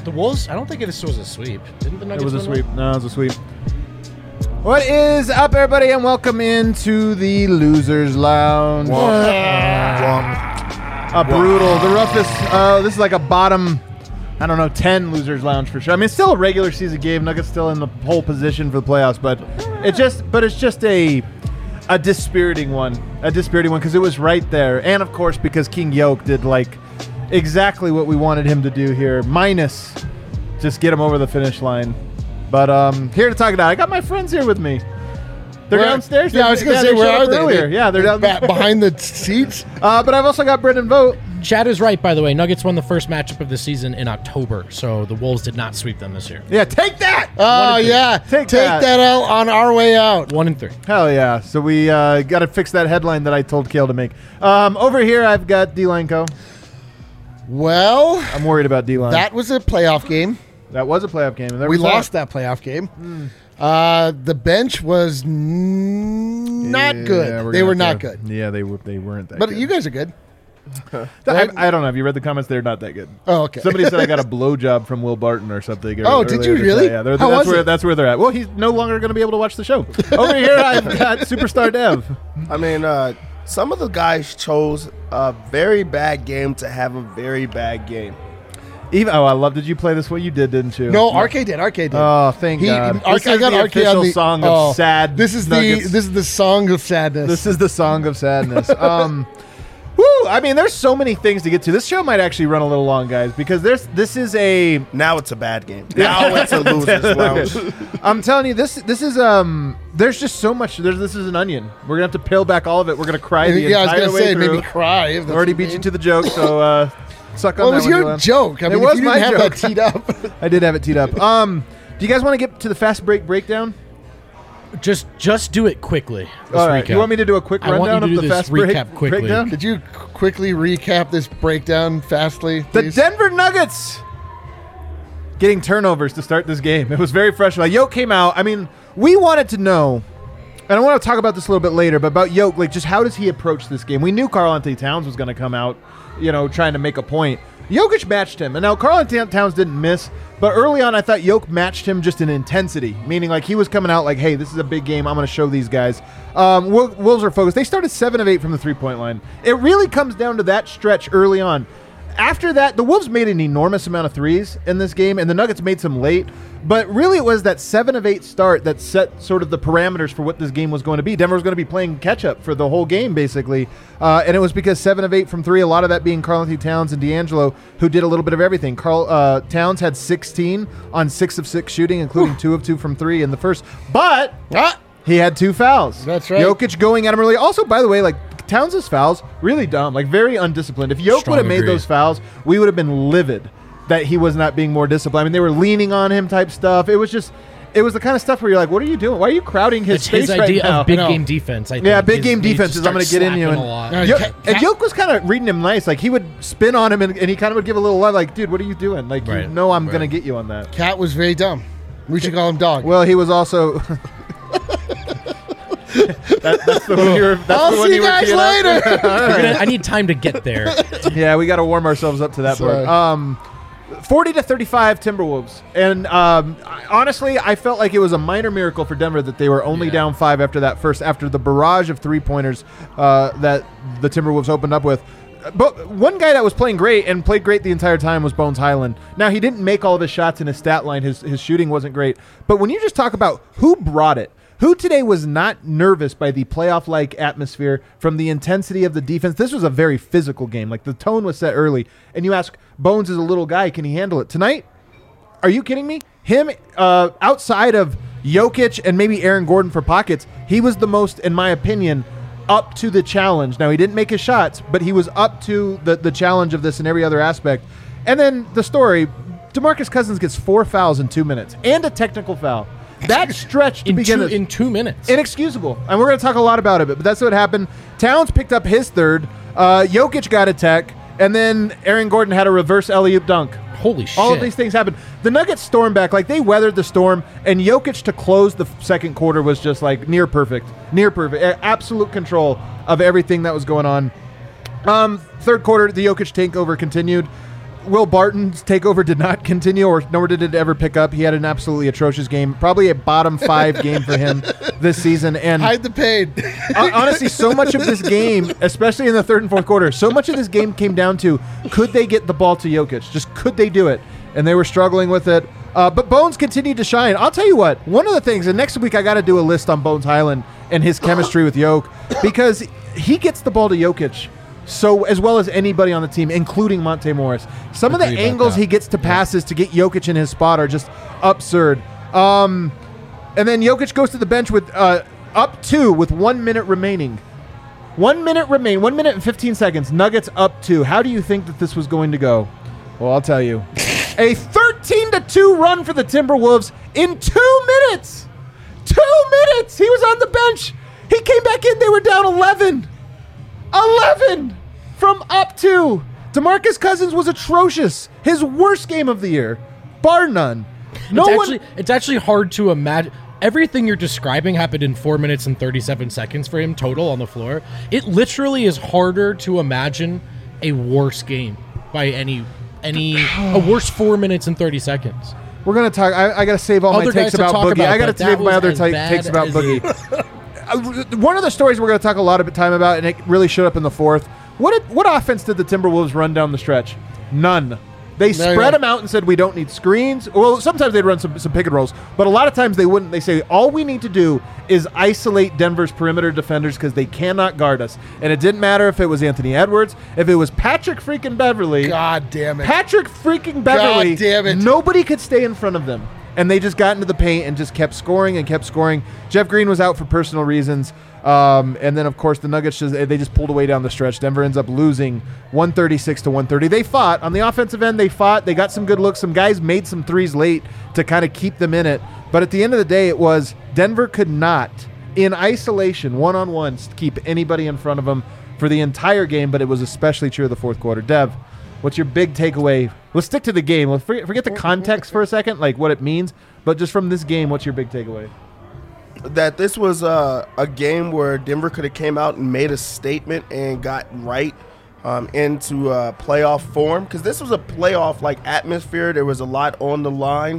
The Wolves, I don't think this was a sweep. Didn't the Nuggets It was a win sweep. No, it was a sweep. What is up, everybody, and welcome into the Losers Lounge. Brutal. The roughest. This is like a bottom, 10 Losers Lounge for sure. I mean, it's still a regular season game. Nuggets still in the pole position for the playoffs, but it's just a dispiriting one. A dispiriting one because it was right there, and of course because King Yoke did like exactly what we wanted him to do here, minus just get him over the finish line. But here to talk about it, I got my friends here with me. They're downstairs. Yeah, I was going to say, where are they? Earlier. Yeah, they're down behind the seats. But I've also got Brendan Vogt. Chad is right, by the way. Nuggets won the first matchup of the season in October, so the Wolves did not sweep them this year. Yeah, take that! Oh, yeah. Take that out on our way out. 1-3. Hell yeah. So we got to fix that headline that I told Kale to make. Over here, I've got D-Line Co. Well, I'm worried about D-Line. That was a playoff game. That was a playoff game. We lost that playoff game. The bench was not good. They were not good. Yeah, they weren't that but good. you guys are good. I don't know. Have you read the comments? They're not that good. Oh, okay. Somebody said I got a blowjob from Will Barton or something. Oh, did you really? Yeah, that's where they're at. Well, he's no longer going to be able to watch the show. Over here, I've got Superstar Dev. I mean, some of the guys chose a very bad game to have a very bad game. I love. Did you play this way? You didn't you? No, RK did. Oh, thank God. I got the RK official on the song of sad. This is Nuggets. the song of sadness. This is the song of sadness. Woo! I mean, there's so many things to get to. This show might actually run a little long, guys, because this is a now it's a bad game. Now it's a Losers Lounge. I'm telling you, this is there's just so much. This is an onion. We're gonna have to peel back all of it. We're gonna cry the entire way I was gonna say through. maybe cry. If I already beat you to the joke, so suck on that. Well, it was your joke. I mean, it was if you my didn't joke. have that teed up. I did have it teed up. Do you guys want to get to the fast break breakdown? Just do it quickly. All right. You want me to do a quick rundown of the fast break breakdown? Could you quickly recap this breakdown fastly, please? The Denver Nuggets getting turnovers to start this game. It was very fresh. Like, Yoke came out. I mean, we wanted to know, and I want to talk about this a little bit later, but about Yoke, like, just how does he approach this game? We knew Karl-Anthony Towns was going to come out, trying to make a point. Jokic matched him, and now Karl-Anthony Towns didn't miss, but early on I thought Yoke matched him just in intensity, meaning like he was coming out like, hey, this is a big game, I'm going to show these guys. Wolves are focused. They started 7 of 8 from the three-point line. It really comes down to that stretch early on. After that, the Wolves made an enormous amount of threes in this game, and the Nuggets made some late. But really, it was that 7 of 8 start that set sort of the parameters for what this game was going to be. Denver was going to be playing catch-up for the whole game, basically. And it was because 7 of 8 from 3, a lot of that being Karl-Anthony Towns and D'Angelo, who did a little bit of everything. Towns had 16 on 6 of 6 shooting, including 2 of 2 from 3 in the first. But he had 2 fouls. That's right. Jokic going at him early. Also, by the way, like, Towns' fouls, really dumb, like very undisciplined. If Yoke would have made those fouls, we would have been livid that he was not being more disciplined. I mean, they were leaning on him type stuff. It was the kind of stuff where you're like, what are you doing? Why are you crowding his space right now? It's his idea of big game defense, I think. Yeah, big game defense is I'm going to get in you. And Yoke was kind of reading him nice. Like, he would spin on him, and he kind of would give a little love, like, dude, what are you doing? Like, I'm going to get you on that. Cat was very dumb. We should call him Dog. Well, he was also... that's the one you were. I'll see you guys later. I need time to get there. Yeah, we got to warm ourselves up to that part. 40-35 Timberwolves, and honestly, I felt like it was a minor miracle for Denver that they were only down 5 after the barrage of 3-pointers that the Timberwolves opened up with. But one guy that was playing great and played great the entire time was Bones Highland. Now, he didn't make all of his shots in his stat line. His shooting wasn't great. But when you just talk about who brought it, who today was not nervous by the playoff-like atmosphere from the intensity of the defense? This was a very physical game. Like, the tone was set early. And you ask, Bones is a little guy. Can he handle it? Tonight, are you kidding me? Him, outside of Jokic and maybe Aaron Gordon for pockets, he was the most, in my opinion, up to the challenge. Now, he didn't make his shots, but he was up to the challenge of this in every other aspect. And then the story, DeMarcus Cousins gets 4 fouls in 2 minutes and a technical foul. That stretch to begin with. In 2 minutes. Inexcusable. And we're going to talk a lot about it, but that's what happened. Towns picked up his third. Jokic got a tech. And then Aaron Gordon had a reverse alley-oop dunk. Holy shit. All of these things happened. The Nuggets stormed back. Like, they weathered the storm. And Jokic to close the second quarter was just, like, near perfect. Near perfect. Absolute control of everything that was going on. Third quarter, the Jokic takeover continued. Will Barton's takeover did not continue, nor did it ever pick up. He had an absolutely atrocious game, probably a bottom 5 game for him this season. And hide the pain. Honestly, so much of this game, especially in the third and fourth quarter, so much of this game came down to, could they get the ball to Jokic? Just could they do it? And they were struggling with it. But Bones continued to shine. I'll tell you what, one of the things, and next week I got to do a list on Bones Highland and his chemistry with Jokic, because he gets the ball to Jokic so as well as anybody on the team, including Monte Morris. Some of the angles he gets to passes to get Jokic in his spot are just absurd. And then Jokic goes to the bench with up 2 with 1 minute remaining. 1 minute and 15 seconds. Nuggets up 2. How do you think that this was going to go? Well, I'll tell you. A 13-2 run for the Timberwolves in 2 minutes. 2 minutes. He was on the bench. He came back in. They were down 11. 11 from up 2. DeMarcus Cousins was atrocious. His worst game of the year, bar none. It's actually hard to imagine. Everything you're describing happened in 4 minutes and 37 seconds for him total on the floor. It literally is harder to imagine a worse game by a worse 4 minutes and 30 seconds. We're going to talk. I got to save all my takes about Boogie. I got to save my other takes about Boogie. One of the stories we're going to talk a lot of time about, and it really showed up in the fourth. What offense did the Timberwolves run down the stretch? None. They spread them out and said, we don't need screens. Well, sometimes they'd run some pick and rolls, but a lot of times they wouldn't. They say, all we need to do is isolate Denver's perimeter defenders because they cannot guard us. And it didn't matter if it was Anthony Edwards, if it was Patrick freaking Beverly. God damn it. Patrick freaking Beverly. God damn it. Nobody could stay in front of them. And they just got into the paint and just kept scoring and kept scoring. Jeff Green was out for personal reasons. And then, of course, the Nuggets, they just pulled away down the stretch. Denver ends up losing 136-130. They fought. On the offensive end, they fought. They got some good looks. Some guys made some threes late to kind of keep them in it. But at the end of the day, it was Denver could not, in isolation, one-on-one, keep anybody in front of them for the entire game, but it was especially true of the fourth quarter. Dev, what's your big takeaway? Let's stick to the game. Let's forget the context for a second, like what it means. But just from this game, what's your big takeaway? That this was a game where Denver could have came out and made a statement and got right into playoff form, because this was a playoff like atmosphere. There was a lot on the line,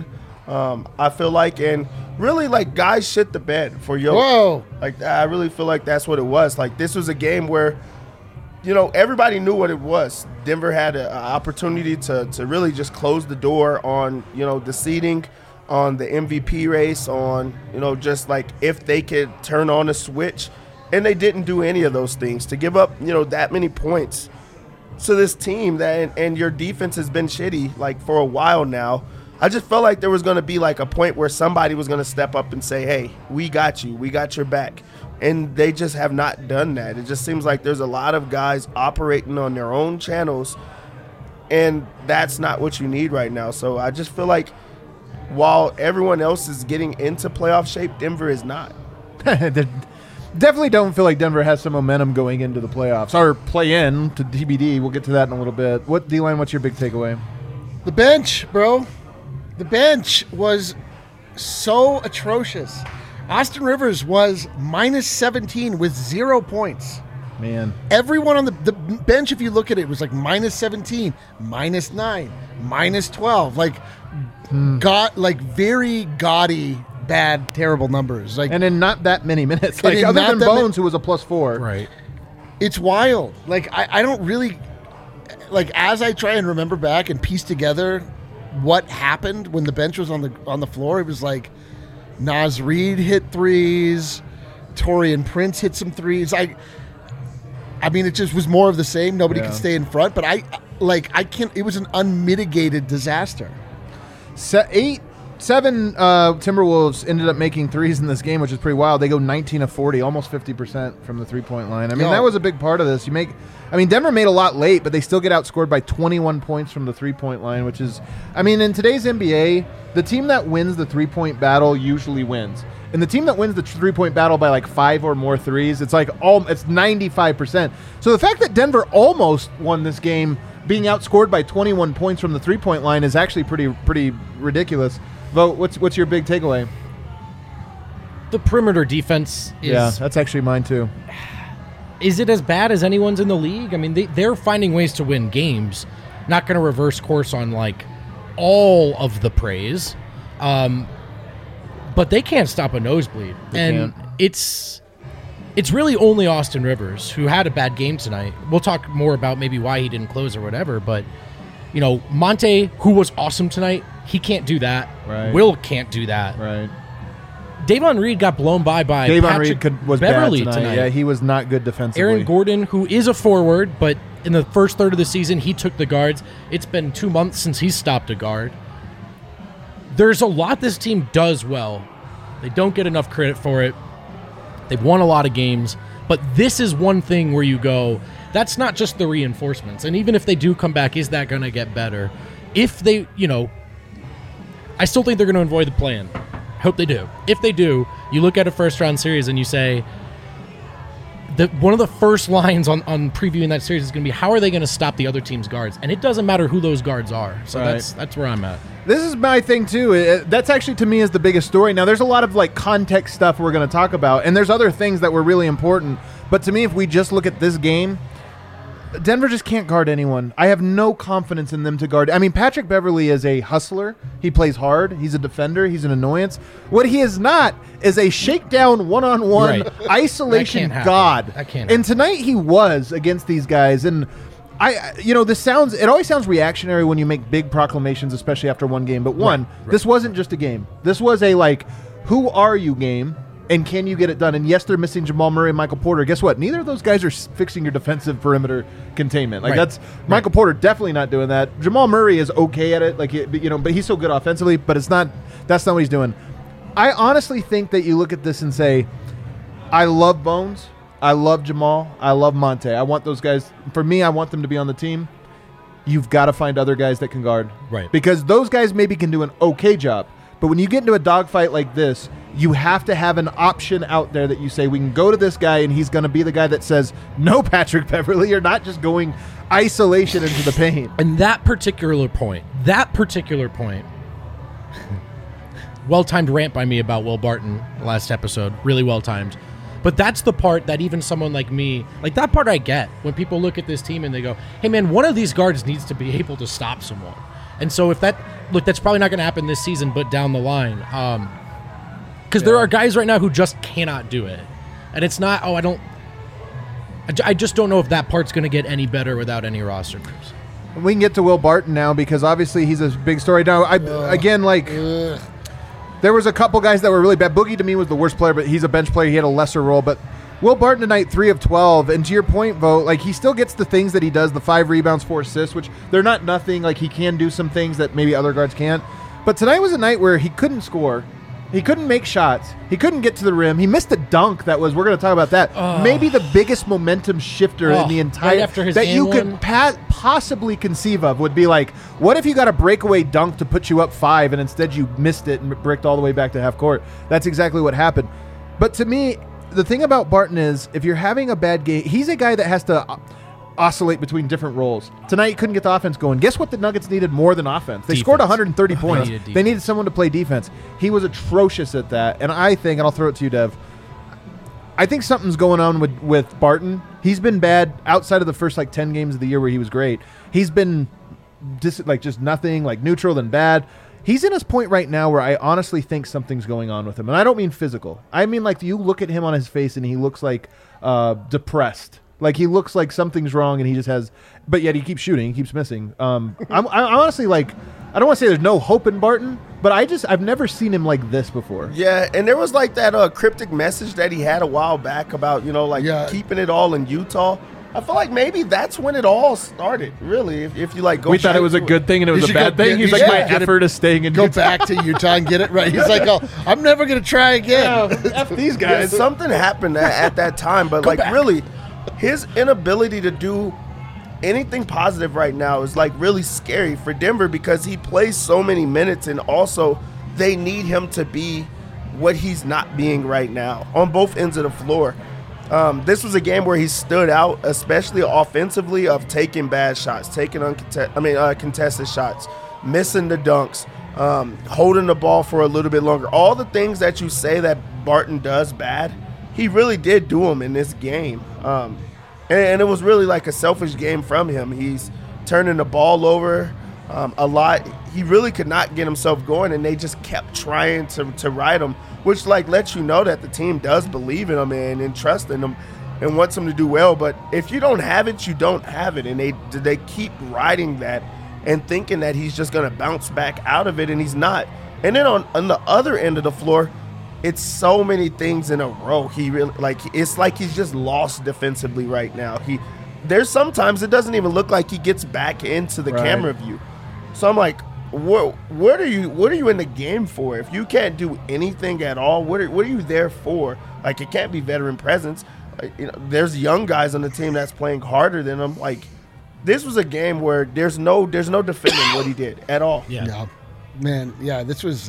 I feel like, and really like guys shit the bed for Jokic. Whoa! Like I really feel like that's what it was. Like this was a game where, you know, everybody knew what it was. Denver had an opportunity to really just close the door on, you know, the seeding, on the MVP race, on, you know, just like if they could turn on a switch. And they didn't do any of those things. To give up, you know, that many points to this team that, and your defense has been shitty like for a while now. I just felt like there was going to be like a point where somebody was going to step up and say, hey, we got you. We got your back. And they just have not done that. It just seems like there's a lot of guys operating on their own channels, and that's not what you need right now. So I just feel like while everyone else is getting into playoff shape, Denver is not. Definitely don't feel like Denver has some momentum going into the playoffs or play-in to TBD. We'll get to that in a little bit. D-Line, what's your big takeaway? The bench, bro. The bench was so atrocious. Austin Rivers was minus 17 with 0 points. Man. Everyone on the bench, if you look at it, was like minus 17, minus 9, minus 12. Like, very gaudy, bad, terrible numbers. Like, and in not that many minutes. Like, other than Bones, who was a +4. Right. It's wild. Like, I don't really, like, as I try and remember back and piece together what happened when the bench was on the floor, it was like Naz Reid hit threes, Taurean Prince hit some threes. I mean, it just was more of the same. Nobody could stay in front, but I can't. It was an unmitigated disaster. 7 Timberwolves ended up making threes in this game, which is pretty wild. They go 19 of 40, almost 50% from the three-point line. I mean, that was a big part of this. Denver made a lot late, but they still get outscored by 21 points from the three-point line, which is, I mean, in today's NBA, the team that wins the three-point battle usually wins. And the team that wins the three-point battle by like 5 or more threes, it's 95%. So the fact that Denver almost won this game, being outscored by 21 points from the three-point line, is actually pretty ridiculous. Vogt, what's your big takeaway? The perimeter defense is... Yeah, that's actually mine too. Is it as bad as anyone's in the league? I mean, they're finding ways to win games. Not going to reverse course on like all of the praise, but they can't stop a nosebleed, and it's really only Austin Rivers who had a bad game tonight. We'll talk more about maybe why he didn't close or whatever, but you know, Monte, who was awesome tonight, he can't do that. Right. Will can't do that. Right. Davon Reed got blown by Davon Patrick Reed was Beverly bad tonight. Yeah, he was not good defensively. Aaron Gordon, who is a forward, but in the first third of the season, he took the guards. It's been 2 months since he stopped a guard. There's a lot this team does well. They don't get enough credit for it. They've won a lot of games, but this is one thing where you go, that's not just the reinforcements. And even if they do come back, is that going to get better? If they, you know, I still think they're going to avoid the plan. Hope they do. If they do, you look at a first-round series and you say, one of the first lines on previewing that series is going to be, how are they going to stop the other team's guards? And it doesn't matter who those guards are. So that's where I'm at. This is my thing, too. That's actually, to me, is the biggest story. Now, there's a lot of, like, context stuff we're going to talk about, and there's other things that were really important. But to me, if we just look at this game, Denver just can't guard anyone. I have no confidence in them to guard. I mean, Patrick Beverly is a hustler. He plays hard. He's a defender. He's an annoyance. What he is not is a shakedown one-on-one isolation god. That can't and tonight he was against these guys. And it always sounds reactionary when you make big proclamations, especially after one game. But this wasn't just a game. This was a, like, who are you game? And can you get it done? And yes, they're missing Jamal Murray and Michael Porter. Guess what? Neither of those guys are fixing your defensive perimeter containment. Like Michael Porter definitely not doing that. Jamal Murray is okay at it, but he's so good offensively. But that's not what he's doing. I honestly think that you look at this and say, I love Bones, I love Jamal, I love Monte. I want those guys. For me, I want them to be on the team. You've got to find other guys that can guard, right? Because those guys maybe can do an okay job. But when you get into a dogfight like this, you have to have an option out there that you say, we can go to this guy and he's going to be the guy that says, no, Patrick Beverly, you're not just going isolation into the paint. And that particular point, well-timed rant by me about Will Barton last episode, really well-timed. But that's the part that even someone like me, like that part I get when people look at this team and they go, hey man, one of these guards needs to be able to stop someone. And so that's probably not going to happen this season, but down the line. Because there are guys right now who just cannot do it. And it's not, I just don't know if that part's going to get any better without any roster moves. We can get to Will Barton now because obviously he's a big story. Now, there was a couple guys that were really bad. Boogie to me was the worst player, but he's a bench player. He had a lesser role. But Will Barton tonight, 3 of 12. And to your point, Vo, like he still gets the things that he does, the 5 rebounds, 4 assists, which they're not nothing. Like he can do some things that maybe other guards can't. But tonight was a night where he couldn't score. He couldn't make shots. He couldn't get to the rim. He missed a dunk that was, we're going to talk about that, maybe the biggest momentum shifter in the entire, that you could possibly conceive of would be like, what if you got a breakaway dunk to put you up 5 and instead you missed it and bricked all the way back to half court? That's exactly what happened. But to me, the thing about Barton is if you're having a bad game, he's a guy that has to oscillate between different roles. Tonight, he couldn't get the offense going. Guess what the Nuggets needed more than offense? They scored 130 points. They needed someone to play defense. He was atrocious at that. And I think, and I'll throw it to you, Dev, I think something's going on with Barton. He's been bad outside of the first 10 games of the year where he was great. He's been just nothing, neutral then bad. He's in his point right now where I honestly think something's going on with him. And I don't mean physical. I mean you look at him on his face and he looks depressed. He looks like something's wrong and he just has, but yet he keeps shooting, he keeps missing. I'm honestly I don't want to say there's no hope in Barton, but I've never seen him like this before. Yeah, and there was that cryptic message that he had a while back about, keeping it all in Utah. I feel like maybe that's when it all started, really. If you go, we thought it was a good thing and it was a bad thing. He's like, my effort is staying in Utah. Go back to Utah and get it right. He's like, oh, I'm never going to try again. F these guys. Yeah, something happened at that time, but really, his inability to do anything positive right now is really scary for Denver because he plays so many minutes and also they need him to be what he's not being right now on both ends of the floor. This was a game where he stood out, especially offensively, of taking bad shots, taking contested shots, missing the dunks, holding the ball for a little bit longer. All the things that you say that Barton does bad, he really did do them in this game. And it was really a selfish game from him. He's turning the ball over a lot. He really could not get himself going, and they just kept trying to ride him, which like lets you know that the team does believe in him and trust in him and wants him to do well. But if you don't have it, you don't have it, and they keep riding that and thinking that he's just going to bounce back out of it, and he's not. And then on the other end of the floor, it's so many things in a row. He really it's like he's just lost defensively right now. There's sometimes it doesn't even look like he gets back into the camera view. So I'm like, what are you in the game for? If you can't do anything at all, what are you there for? Like, it can't be veteran presence. There's young guys on the team that's playing harder than him. Like, this was a game where there's no defending what he did at all. Yeah. Man, yeah, this was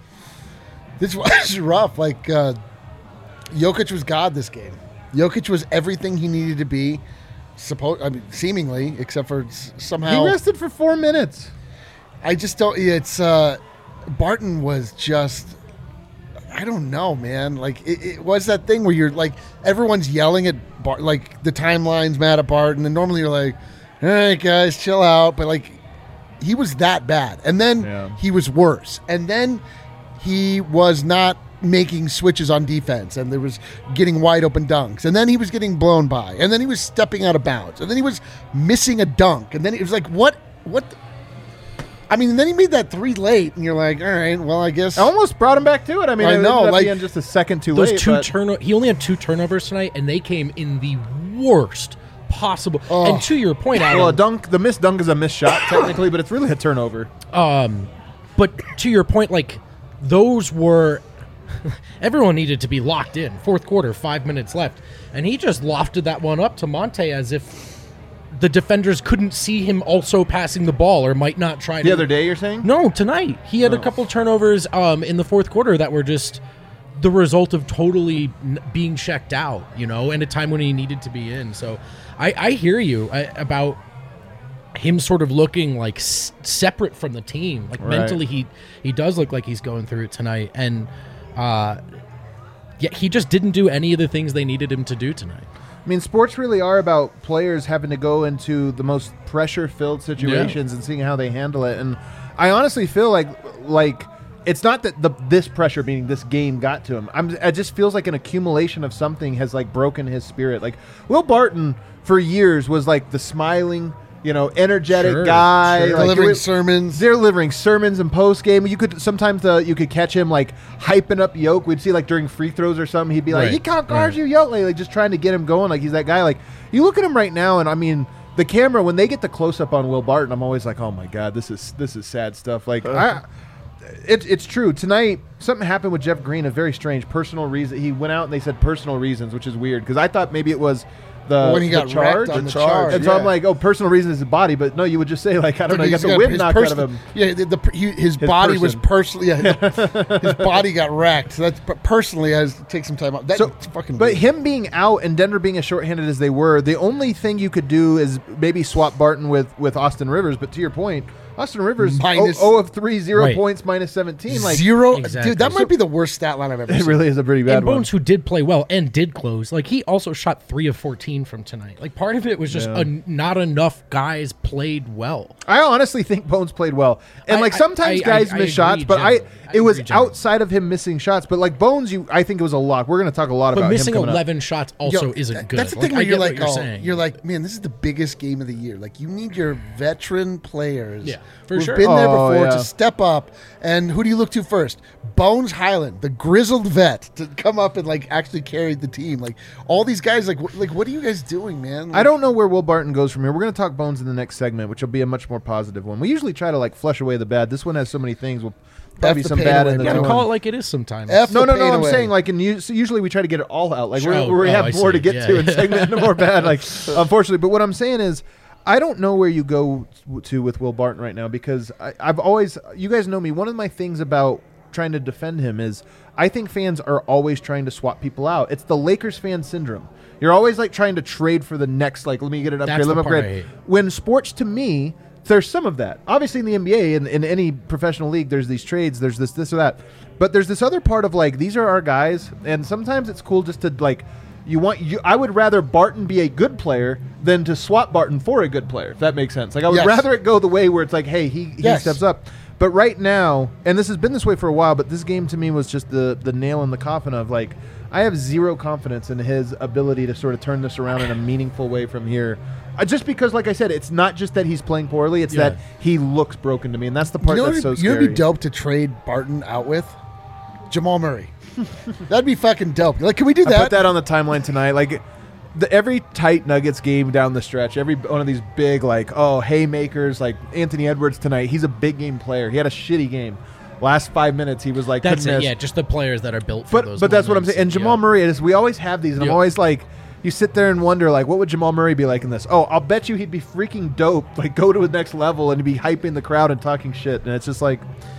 rough. Like, Jokic was God this game. Jokic was everything he needed to be. Seemingly, except for somehow he rested for 4 minutes. I just don't. It's Barton was just. I don't know, man. Like it was that thing where you're like everyone's yelling at like the timeline's mad at Barton, and normally you're like, "All right, guys, chill out." But like, he was that bad, and then he was worse, and then he was not making switches on defense, and there was getting wide open dunks, and then he was getting blown by, and then he was stepping out of bounds, and then he was missing a dunk, and then it was like, what? I mean, and then he made that 3 late, and you're like, all right, well, I guess. I almost brought him back to it. I mean, I know, it ended up like being just a second too Those late. he only had 2 turnovers tonight, and they came in the worst possible. And to your point, Adam, well, the missed dunk is a missed shot technically, but it's really a turnover. But to your point, like those were. Everyone needed to be locked in. Fourth quarter, 5 minutes left, and he just lofted that one up to Monte as if the defenders couldn't see him also passing the ball or might not try to. The other day, you're saying? No, tonight. He had a couple turnovers in the fourth quarter that were just the result of totally being checked out, and a time when he needed to be in. So I hear you about him sort of looking like separate from the team. Like mentally, he does look like he's going through it tonight. And he just didn't do any of the things they needed him to do tonight. I mean, sports really are about players having to go into the most pressure-filled situations and seeing how they handle it. And I honestly feel like it's not that this pressure, meaning this game, got to him. It just feels like an accumulation of something has like broken his spirit. Like Will Barton for years was like the smiling, energetic guy, Sure. Like, delivering sermons and post game. You could sometimes you could catch him like hyping up Yoke. We'd see like during free throws or something, he'd be like, "He can't guard you, Yoke," like just trying to get him going. Like he's that guy. Like you look at him right now, and I mean, the camera when they get the close up on Will Barton, I'm always like, "Oh my God, this is sad stuff." Like it's true. Tonight, something happened with Jeff Green. A very strange personal reason. He went out and they said personal reasons, which is weird because I thought maybe it was. When he got charge, wrecked on the charge. And so I'm like, personal reason is his body, but no, you would just say like, I don't know, he got the wind knocked out of him. Yeah, his body was personally. His body got wrecked. So that's personally, I has to take some time out. That's fucking. But weird. him being out and Denver being as shorthanded as they were, the only thing you could do is maybe swap Barton with Austin Rivers. But to your point, Austin Rivers Minus- 0 of 3, 0 Right. points, minus 17. Like zero, Exactly. dude. That might be the worst stat line I've ever it seen. really is a pretty bad And one. Bones, who did play well and did close, like he also shot 3 of 14 from tonight. Like part of it was just not enough guys played well. I honestly think Bones played well, and like sometimes I guys agree miss shots, but generally. it was agree generally. outside of him missing shots. But like Bones, I think it was a lot. We're going to talk a lot But about missing him coming 11 shots also Yo, isn't good. That's the Like, thing where I you're get like, what you're saying. you're like, man, this is the biggest game of the year. Like, you need your veteran players, Yeah, for who've sure. been there Oh, before, yeah. to step up. And who do you look to first? Bones Highland, the grizzled vet, to come up and like actually carry the team. Like all these guys, like what are you guys doing, man? Like, I don't know where Will Barton goes from here. We're going to talk Bones in the next segment, which will be a much more positive one. We usually try to like flush away the bad. This one has so many things. We'll probably the some pain bad away, in the You man. gotta new call one. it like it is sometimes. F No, the pain I'm away. saying like usually we try to get it all out. Like we I have more see. to get Yeah, to in yeah. segment and more bad. Like unfortunately, but what I'm saying is, I don't know where you go to with Will Barton right now because I've always, you guys know me. One of my things about trying to defend him is I think fans are always trying to swap people out. It's the Lakers fan syndrome. You're always like trying to trade for the next, like, let me get it up That's here, let the me part I upgrade. hate. When sports, to me, there's some of that. Obviously in the NBA and in any professional league, there's these trades, there's this or that. But there's this other part of like, these are our guys, and sometimes it's cool just to like I would rather Barton be a good player than to swap Barton for a good player, if that makes sense. Like, I would Yes. rather it go the way where it's like, hey, he Yes. steps up. But right now, and this has been this way for a while, but this game to me was just the nail in the coffin of, like, I have zero confidence in his ability to sort of turn this around in a meaningful way from here. Just because, like I said, it's not just that he's playing poorly, it's that he looks broken to me, and that's the part that's so You know scary. what'd be dope to trade Barton out with? Jamal Murray. That'd be fucking dope. Like, can we do I that? put that on the timeline tonight. Like, every tight Nuggets game down the stretch, every one of these big, like, haymakers, like Anthony Edwards tonight, he's a big game player. He had a shitty game. Last 5 minutes, he was like, That's couldn't it. miss. Yeah, just the players that are built for those. But that's what I'm moments. saying. And Jamal Murray, we always have these, and I'm Yeah. always like, you sit there and wonder, like, what would Jamal Murray be like in this? Oh, I'll bet you he'd be freaking dope, like, go to the next level and be hyping the crowd and talking shit. And it's just like,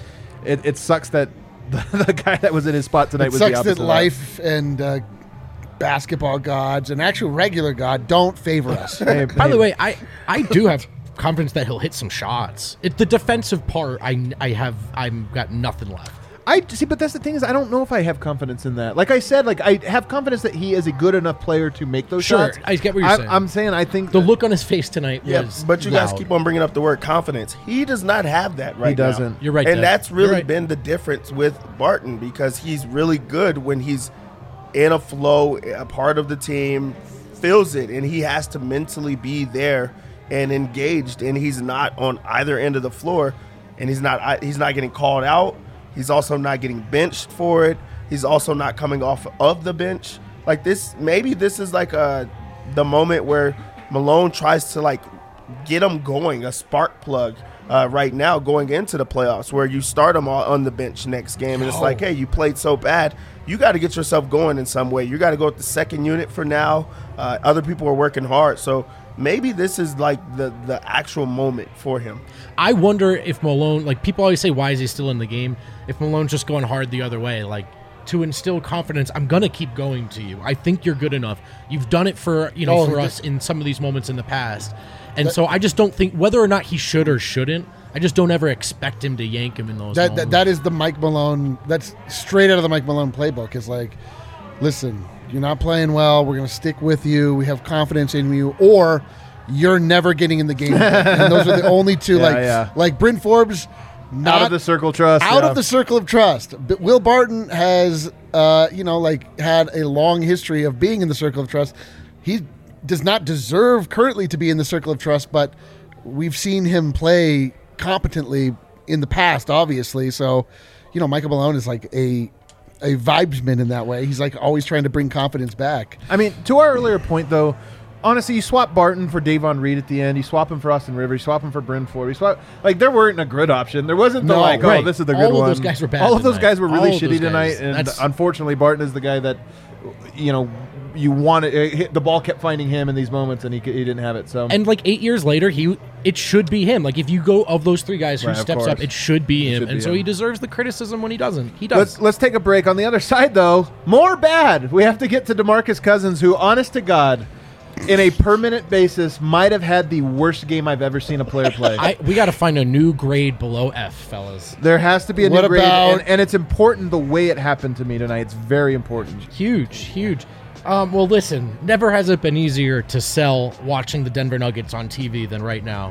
it sucks that the guy that was in his spot tonight It was the sucks opposite that of life and basketball gods and actual regular God don't favor us. Hey, By hey, the way, I do have confidence that he'll hit some shots. The defensive part, I've got nothing left. I see, but that's the thing is, I don't know if I have confidence in that. Like I said, like I have confidence that he is a good enough player to make those Sure, shots. I get what you're saying. I'm saying I think The look on his face tonight Yeah, was but you guys loud. keep on bringing up the word confidence. He does not have that right now. doesn't. You're right, And Deb. that's You're really right. been the difference with Barton, because he's really good when he's in a flow, a part of the team, feels it, and he has to mentally be there and engaged, and he's not on either end of the floor, and he's not getting called out. He's also not getting benched for it. He's also not coming off of the bench. Like this, maybe this is like the moment where Malone tries to like get him going, a spark plug right now going into the playoffs, where you start him on the bench next game, and it's like, hey, you played so bad, you got to get yourself going in some way. You got to go with the second unit for now. Other people are working hard, so maybe this is like the actual moment for him. I wonder if Malone, like people always say, why is he still in the game? If Malone's just going hard the other way, like to instill confidence, I'm going to keep going to you. I think you're good enough. You've done it for, for us in some of these moments in the past. And so I just don't think, whether or not he should or shouldn't, I just don't ever expect him to yank him in those moments. That is the Mike Malone. That's straight out of the Mike Malone playbook. It's like, listen, you're not playing well. We're going to stick with you. We have confidence in you, or you're never getting in the game. And those are the only two. Like Bryn Forbes, not out of the circle of trust. out of the circle of trust. But Will Barton has, had a long history of being in the circle of trust. He does not deserve currently to be in the circle of trust, but we've seen him play competently in the past, obviously. So, Michael Malone is like a vibesman in that way. He's like always trying to bring confidence back. I mean, to our earlier point, though, honestly, you swap Barton for Davon Reed at the end. You swap him for Austin Rivers. You swap him for Bryn Ford. You swap, like, there weren't a good option. There wasn't the, No, right. this is the good All of one. those guys were bad All of those tonight. guys were really All of those shitty tonight. guys. And That's- unfortunately, Barton is the guy that, you wanted. The ball kept finding him in these moments, and he didn't have it. So And like 8 years later, it should be him. Like if you go of those three guys who Right, of steps up, course. it should be him. should And be so him. he deserves the criticism when he doesn't. He does. Let's take a break. On the other side, though, more bad. We have to get to DeMarcus Cousins, who, honest to God, in a permanent basis, might have had the worst game I've ever seen a player play. We got to find a new grade below F, fellas. There has to be a What new grade, about- and it's important the way it happened to me tonight. It's very important. Huge. Well, listen, never has it been easier to sell watching the Denver Nuggets on TV than right now.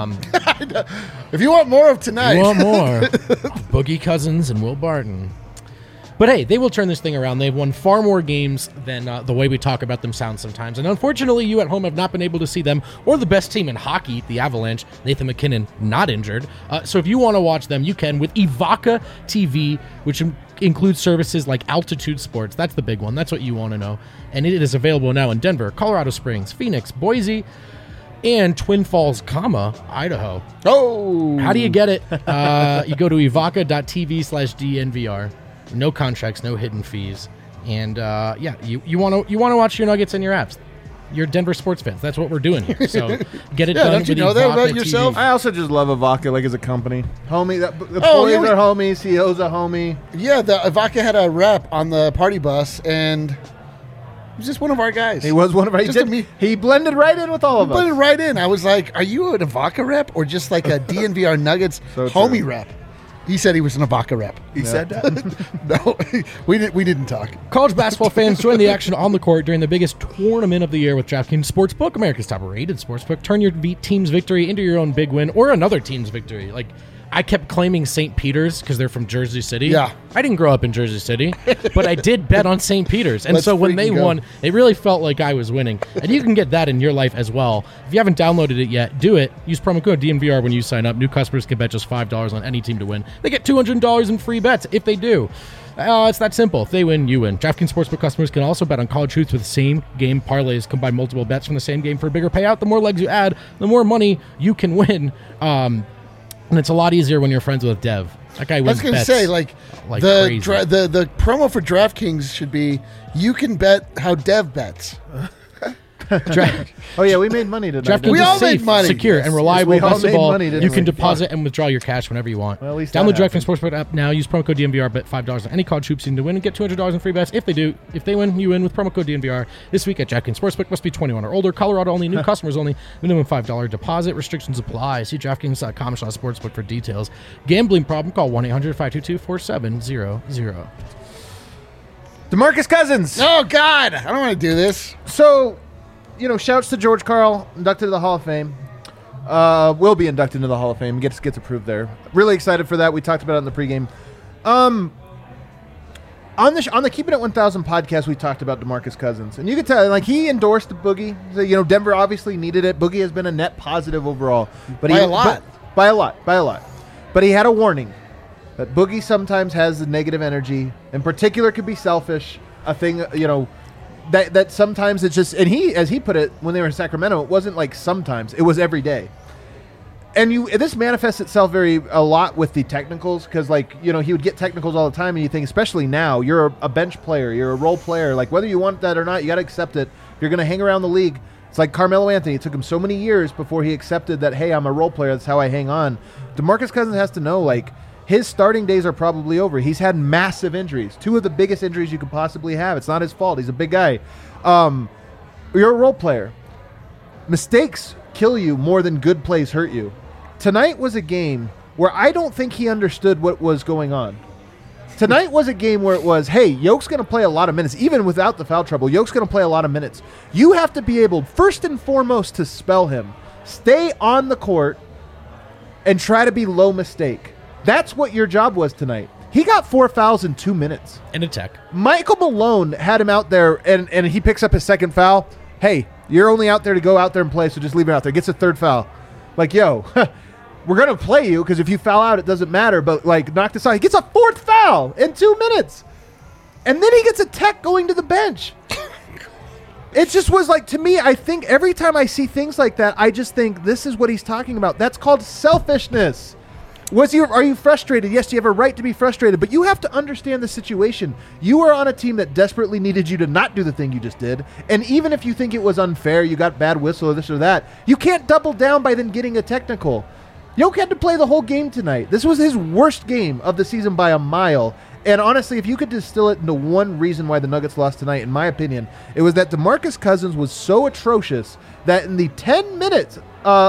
If you want more of tonight, You want more? Boogie Cousins and Will Barton. But hey, they will turn this thing around. They've won far more games than the way we talk about them sounds sometimes. And unfortunately, you at home have not been able to see them or the best team in hockey, the Avalanche, Nathan McKinnon, not injured. So if you want to watch them, you can with Evoca TV, which includes services like Altitude Sports. That's the big one. That's what you want to know. And it is available now in Denver, Colorado Springs, Phoenix, Boise, and Twin Falls, Idaho. oh, How do you get it? You go to evoca.tv/DNVR. No contracts, no hidden fees, and you want to watch your Nuggets and your apps. You're Denver sports fans. That's what we're doing here. So get it Yeah, done. don't you with know that Evoca about yourself? TV. I also just love Avaca, like, as a company. Homie, the Oh, employees yeah, are homies. CEO's a homie. Yeah, the Ivanka had a rep on the party bus, and he was just one of our guys. He was one of our. Just a me- He blended right in with all of Put it us. right in. I was like, "Are you an Ivanka rep or just like a DNVR Nuggets So homie true. rep?" He said he was an Ibaka rep. He said that. No, we didn't talk. College basketball fans, join the action on the court during the biggest tournament of the year with DraftKings Sportsbook, America's top-rated sportsbook. Turn your team's victory into your own big win or another team's victory. Like, I kept claiming St. Peter's because they're from Jersey City. Yeah. I didn't grow up in Jersey City, but I did bet on St. Peter's. And Let's so when they freaking go. won, it really felt like I was winning. And you can get that in your life as well. If you haven't downloaded it yet, do it. Use promo code DNVR when you sign up. New customers can bet just $5 on any team to win. They get $200 in free bets if they do. It's that simple. If they win, you win. DraftKings Sportsbook customers can also bet on college hoops with same-game parlays. Combine multiple bets from the same game for a bigger payout. The more legs you add, the more money you can win. And it's a lot easier when you're friends with Dev. That guy I wins was going to bets say, like crazy. the promo for DraftKings should be, you can bet how Dev bets. Oh yeah, we made money tonight. DraftKings didn't We is all made safe, money. secure, and reliable. we all Best of made all, money, didn't you can we? deposit and withdraw your cash whenever you want. Well, at least Download that DraftKings Sportsbook app now. Use promo code DNVR. Bet $5 on any college hoops team to win and get $200 in free bets. If they win, you win with promo code DNVR. This week at DraftKings Sportsbook. Must be 21 or older. Colorado only. New customers only. Minimum $5 deposit. Restrictions apply. See DraftKings.com/sportsbook for details. Gambling problem? Call 1-800-522-4700. DeMarcus Cousins. Oh, God. I don't want to do this. So, shouts to George Karl, inducted to the Hall of Fame. Will be inducted into the Hall of Fame. Gets approved there. Really excited for that. We talked about it in the pregame. On the Keeping It 1000 podcast, we talked about DeMarcus Cousins, and you could tell, like, he endorsed Boogie. So, Denver obviously needed it. Boogie has been a net positive overall, but By a lot. by a lot. But he had a warning that Boogie sometimes has the negative energy. In particular, could be selfish. A thing, that sometimes it's just, and he, as he put it, when they were in Sacramento, it wasn't like sometimes, it was every day. And this manifests itself a lot with the technicals, because he would get technicals all the time, and you think, especially now, you're a bench player, you're a role player, like whether you want that or not, you got to accept it. If you're going to hang around the league, it's like Carmelo Anthony. It took him so many years before he accepted that, hey, I'm a role player, that's how I hang on. DeMarcus Cousins has to know, like, his starting days are probably over. He's had massive injuries, 2 of the biggest injuries you could possibly have. It's not his fault. He's a big guy. You're a role player. Mistakes kill you more than good plays hurt you. Tonight was a game where I don't think he understood what was going on. Tonight was a game where it was, hey, Yoke's going to play a lot of minutes. Even without the foul trouble, Yoke's going to play a lot of minutes. You have to be able, first and foremost, to spell him. Stay on the court and try to be low mistake. That's what your job was tonight. He got 4 fouls in 2 minutes. In a tech. Michael Malone had him out there, and he picks up his second foul. Hey, you're only out there to go out there and play, so just leave him out there. Gets a 3rd foul. Like, yo, we're going to play you, because if you foul out, it doesn't matter, but, like, knock this out. He gets a 4th foul in 2 minutes. And then he gets a tech going to the bench. It just was like, to me, I think every time I see things like that, I just think this is what he's talking about. That's called selfishness. Are you frustrated? Yes, you have a right to be frustrated, but you have to understand the situation. You are on a team that desperately needed you to not do the thing you just did, and even if you think it was unfair, you got bad whistle or this or that, you can't double down by then getting a technical. Yoke had to play the whole game tonight. This was his worst game of the season by a mile, and honestly, if you could distill it into one reason why the Nuggets lost tonight, in my opinion, it was that DeMarcus Cousins was so atrocious that in the 5 minutes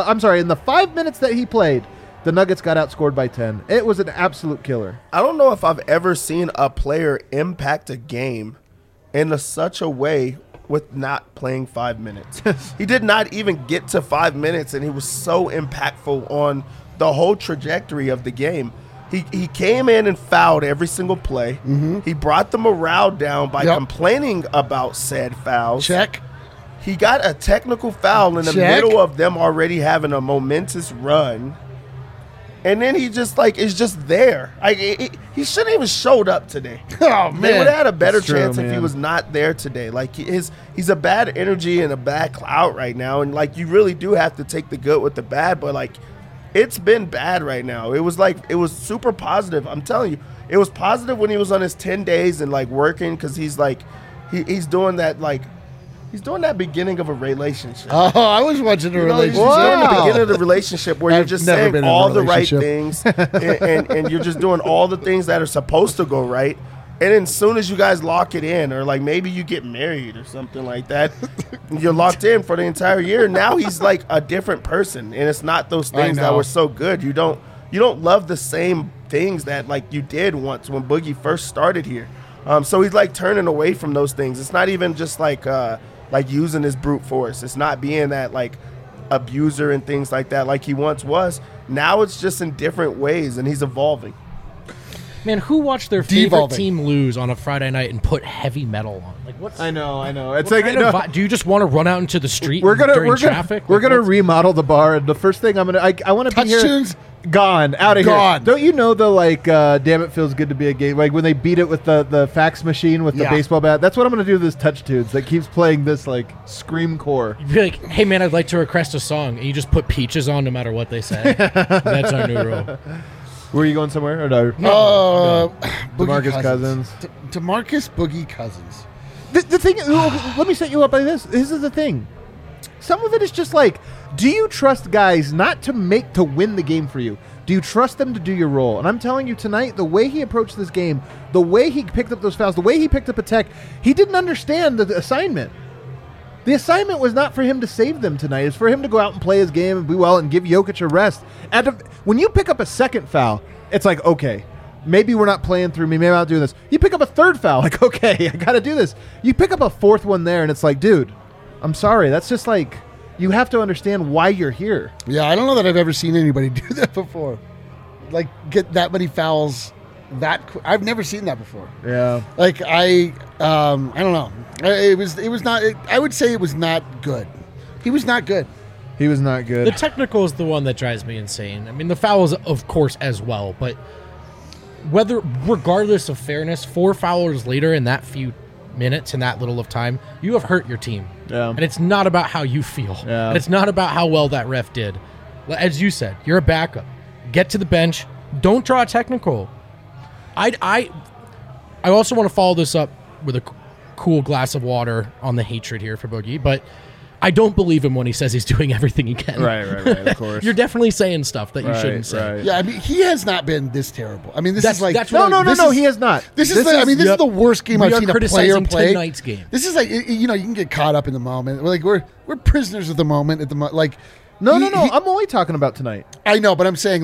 that he played, the Nuggets got outscored by 10. It was an absolute killer. I don't know if I've ever seen a player impact a game in such a way with not playing 5 minutes. He did not even get to 5 minutes, and he was so impactful on the whole trajectory of the game. He came in and fouled every single play. Mm-hmm. He brought the morale down by complaining about said fouls. Check. He got a technical foul in the middle of them already having a momentous run. And then he just is just there. He shouldn't even showed up today. Oh man, they would have had a better That's true, chance if man. he was not there today. Like he's a bad energy and a bad clout right now, and you really do have to take the good with the bad. But it's been bad right now. It was super positive. I'm telling you, it was positive when he was on his 10 days and working, because he's doing that He's doing that beginning of a relationship. Oh, I was watching a relationship. He's doing the beginning of the relationship where you're just never saying been in a all the right relationship. things and you're just doing all the things that are supposed to go right. And then as soon as you guys lock it in, or maybe you get married or something like that, you're locked in for the entire year. Now he's a different person, and it's not those things that were so good. You don't love the same things that like you did once when Boogie first started here. So he's like turning away from those things. It's not even just like using his brute force. It's not being that like abuser and things like that like he once was. Now it's just in different ways, and he's evolving. Man, who watched their favorite Devolving. team lose on a Friday night and put heavy metal on? Like, what's I know. It's what like kind of do you just want to run out into the street during traffic? We're Like, gonna what's- remodel the bar, and the first thing I want to be Touch here. tunes. Gone, out of Gone. here. Don't you know the like? Damn, it feels good to be a game. Like when they beat it with the fax machine with the Yeah. baseball bat. That's what I'm gonna do to this touch tunes that keeps playing this like scream core. You'd be like, hey man, I'd like to request a song, and you just put Peaches on no matter what they say. That's our new rule. Were you going somewhere or no? Boogie DeMarcus Cousins. DeMarcus Boogie Cousins. The thing, let me set you up by this. This is the thing. Some of it is just like, do you trust guys not to win the game for you? Do you trust them to do your role? And I'm telling you tonight, the way he approached this game, the way he picked up those fouls, the way he picked up a tech, he didn't understand the assignment. The assignment was not for him to save them tonight. It's for him to go out and play his game and be well and give Jokic a rest. When you pick up a second foul, it's like, okay, maybe we're not playing through me. Maybe I'm not doing this. You pick up a third foul, like, okay, I got to do this. You pick up a fourth one there, and it's like, dude, I'm sorry. That's just like, you have to understand why you're here. Yeah, I don't know that I've ever seen anybody do that before. Like, get that many fouls I've never seen that before. Yeah. Like, I don't know. It was not, I would say it was not good. He was not good. He was not good. The technical is the one that drives me insane. I mean, the fouls, of course, as well. But regardless of fairness, 4 foulers later in that few minutes and that little of time, you have hurt your team. Yeah. And it's not about how you feel. Yeah. And it's not about how well that ref did. As you said, you're a backup. Get to the bench. Don't draw a technical. I also want to follow this up with a cool glass of water on the hatred here for Boogie, but I don't believe him when he says he's doing everything he can. Right, of course. You're definitely saying stuff that you shouldn't say. Right. Yeah, I mean, he has not been this terrible. I mean, this That's- is like that's No, what no, he has not. This is the worst game We I've are seen a player criticizing play. tonight's game. This is like, you know, you can get caught up in the moment. Like we're prisoners of the moment at the like. No. he- I'm only talking about tonight. I know, but I'm saying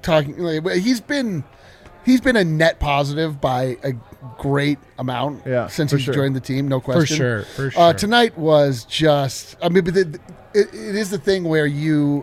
he's been a net positive by a great amount since for he's sure. joined the team. No question. For sure. Tonight was just. I mean, but it is the thing where you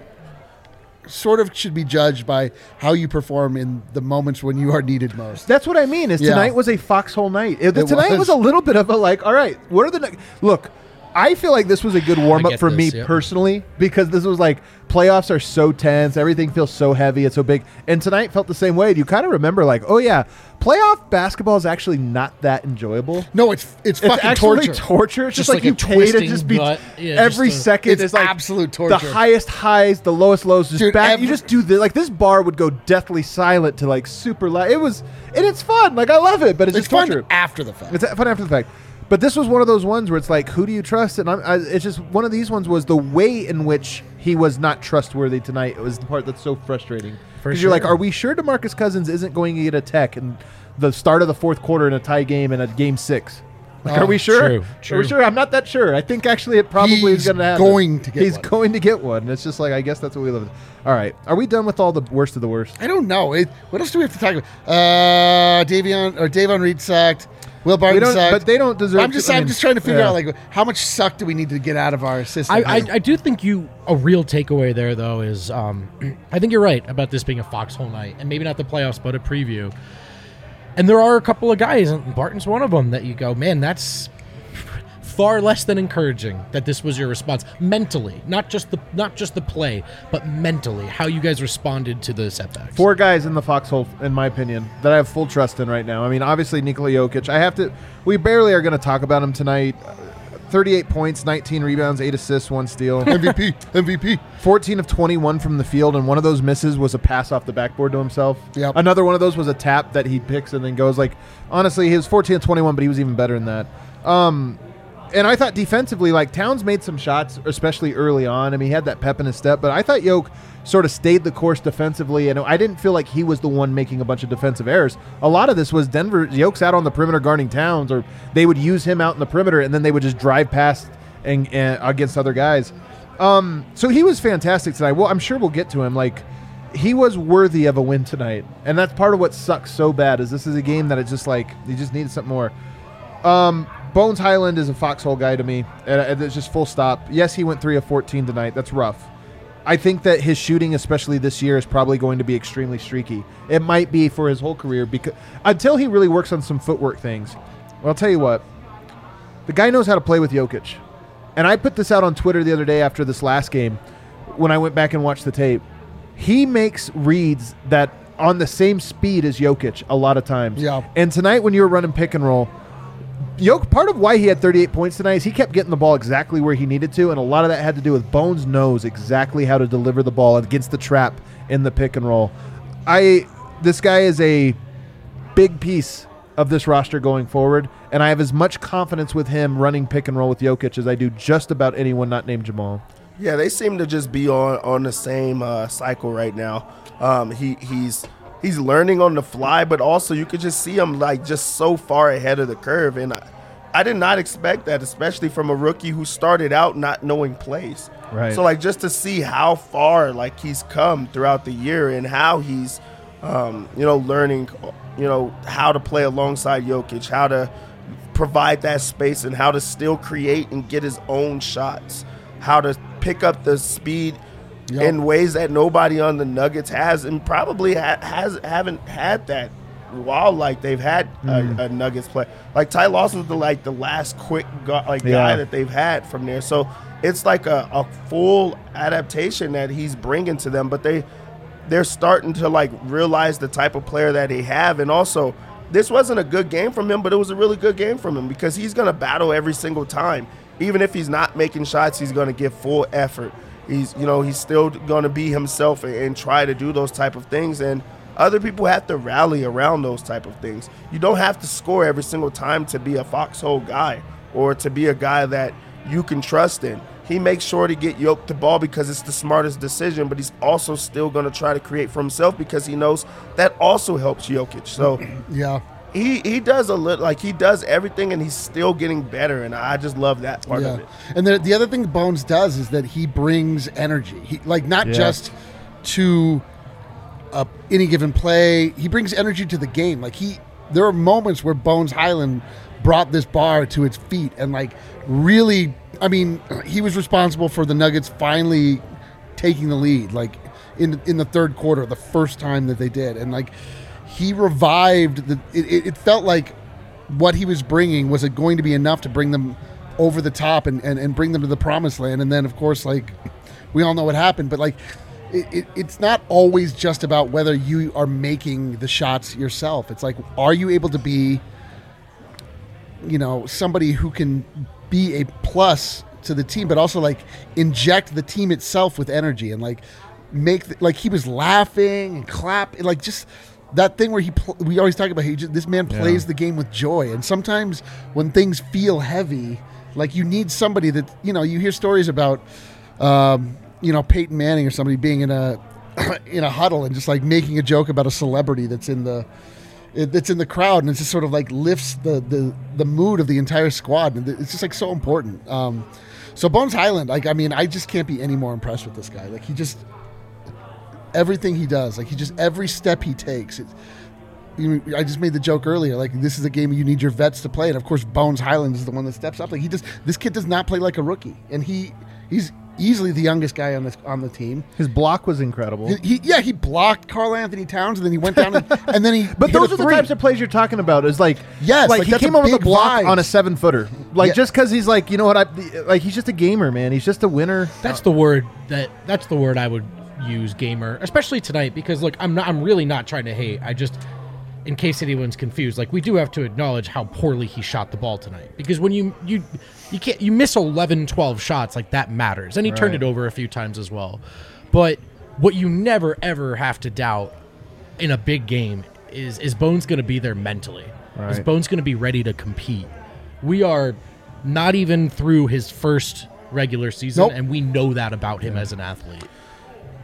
sort of should be judged by how you perform in the moments when you are needed most. That's what I mean. Is Yeah. tonight was a foxhole night. Tonight was. was a little bit of a like. All right, what are the look? I feel like this was a good warm up get for me this, yep. personally because this was like playoffs are so tense, everything feels so heavy, it's so big, and tonight felt the same way. You kind of remember like, oh yeah, playoff basketball is actually not that enjoyable. No, it's fucking actually torture. torture. It's just Just like like you a pay to twisting just be gut. Yeah, every just a- second It's is like absolute the torture. highest highs, the lowest lows. Just Dude, you just do this. Like this bar would go deathly silent to like super loud. It's fun. Like I love it, but it's It's just fun torture. after the fact. It's fun after the fact. But this was one of those ones where it's like, who do you trust? And it's just one of these ones was the way in which he was not trustworthy tonight. It was the part that's so frustrating. For Because you're like, sure. are we sure DeMarcus Cousins isn't going to get a tech in the start of the fourth quarter in a tie game and a game 6? Like, are we sure? true. Are we sure? I'm not that sure. I think actually it probably is He's going to happen. going to get He's one. going to get one. And it's just like, I guess that's what we live with. All right. Are we done with all the worst of the worst? I don't know. What else do we have to talk about? Davon Reed sucked. Will Barton We don't, sucked. but they don't deserve. I'm just trying to figure yeah. out like how much suck do we need to get out of our system. I do think a real takeaway there though is I think you're right about this being a foxhole night and maybe not the playoffs but a preview. And there are a couple of guys, and Barton's one of them, that you go, man, that's far less than encouraging that this was your response mentally, not just the play, but mentally how you guys responded to the setbacks. 4 guys in the foxhole, in my opinion, that I have full trust in right now. I mean, obviously Nikola Jokic. We barely are going to talk about him tonight. 38 points, 19 rebounds, 8 assists, 1 steal. MVP. 14 of 21 from the field, and one of those misses was a pass off the backboard to himself. Yep. Another one of those was a tap that he picks and then goes like, honestly, he was 14 of 21, but he was even better than that. And I thought defensively, like Towns made some shots, especially early on. I mean, he had that pep in his step, but I thought Yoke sort of stayed the course defensively, and I didn't feel like he was the one making a bunch of defensive errors. A lot of this was Yoke's out on the perimeter guarding Towns, or they would use him out in the perimeter, and then they would just drive past and against other guys. So he was fantastic tonight. Well, I'm sure we'll get to him. Like, he was worthy of a win tonight, and that's part of what sucks so bad. Is this is a game that it's just like you just needed something more. Bones Highland is a foxhole guy to me, and it's just full stop. Yes, he went 3 of 14 tonight. That's rough. I think that his shooting, especially this year, is probably going to be extremely streaky. It might be for his whole career because until he really works on some footwork things. Well, I'll tell you what, the guy knows how to play with Jokic, and I put this out on Twitter the other day after this last game when I went back and watched the tape. He makes reads that on the same speed as Jokic a lot of times. Yeah. And tonight when you were running pick and roll, part of why he had 38 points tonight is he kept getting the ball exactly where he needed to, and a lot of that had to do with Bones knows exactly how to deliver the ball against the trap in the pick and roll. This guy is a big piece of this roster going forward, and I have as much confidence with him running pick and roll with Jokic as I do just about anyone not named Jamal. Yeah, they seem to just be on the same cycle right now. He's learning on the fly, but also you could just see him like just so far ahead of the curve. And I did not expect that, especially from a rookie who started out not knowing plays. Right. So like just to see how far like he's come throughout the year and how he's learning how to play alongside Jokic, how to provide that space and how to still create and get his own shots, how to pick up the speed in ways that nobody on the Nuggets has, and probably haven't had that while like they've had a Nuggets play. Like Ty Lawson's the last quick guy that they've had from there. So it's like a full adaptation that he's bringing to them, but they're starting to like realize the type of player that they have. And also, this wasn't a good game from him, but it was a really good game from him because he's going to battle every single time. Even if he's not making shots, he's going to give full effort. He's still going to be himself and try to do those type of things. And other people have to rally around those type of things. You don't have to score every single time to be a foxhole guy or to be a guy that you can trust in. He makes sure to get Jokic the ball because it's the smartest decision, but he's also still going to try to create for himself because he knows that also helps Jokic. So yeah. He does he does everything, and he's still getting better, and I just love that part of it. And the other thing Bones does is that he brings energy. He not just to any given play. He brings energy to the game. Like there are moments where Bones Highland brought this bar to its feet, and like really, I mean, he was responsible for the Nuggets finally taking the lead, like in the third quarter, the first time that they did, and like. He revived it felt like what he was bringing was it going to be enough to bring them over the top and bring them to the promised land. And then, of course, like we all know what happened. But like it's not always just about whether you are making the shots yourself. It's like, are you able to be, somebody who can be a plus to the team, but also like inject the team itself with energy and like like he was laughing and clapping, like just. That thing where we always talk about, this man plays the game with joy. And sometimes when things feel heavy, like you need somebody that, you hear stories about, Peyton Manning or somebody being in a huddle and just like making a joke about a celebrity that's in the crowd. And it's just sort of like lifts the mood of the entire squad. And it's just like so important. So Bones Highland, like, I mean, I just can't be any more impressed with this guy. Like everything he does, like every step he takes. I just made the joke earlier, like this is a game you need your vets to play, and of course Bones Highland is the one that steps up. Like this kid does not play like a rookie, and he's easily the youngest guy on the team. His block was incredible. He blocked Karl Anthony Towns, and then he went down and then he. But those are the types of plays you're talking about. Is like like he came over the block on a 7-footer. Like just because he's like, he's just a gamer, man. He's just a winner. That's the word I would use, gamer, especially tonight, because look, I'm really not trying to hate. I just, in case anyone's confused, like we do have to acknowledge how poorly he shot the ball tonight, because when you miss 11-12 shots, like that matters, and he turned it over a few times as well. But what you never ever have to doubt in a big game is Bones going to be there mentally. Is Bones going to be ready to compete? We are not even through his first regular season, and we know that about him as an athlete.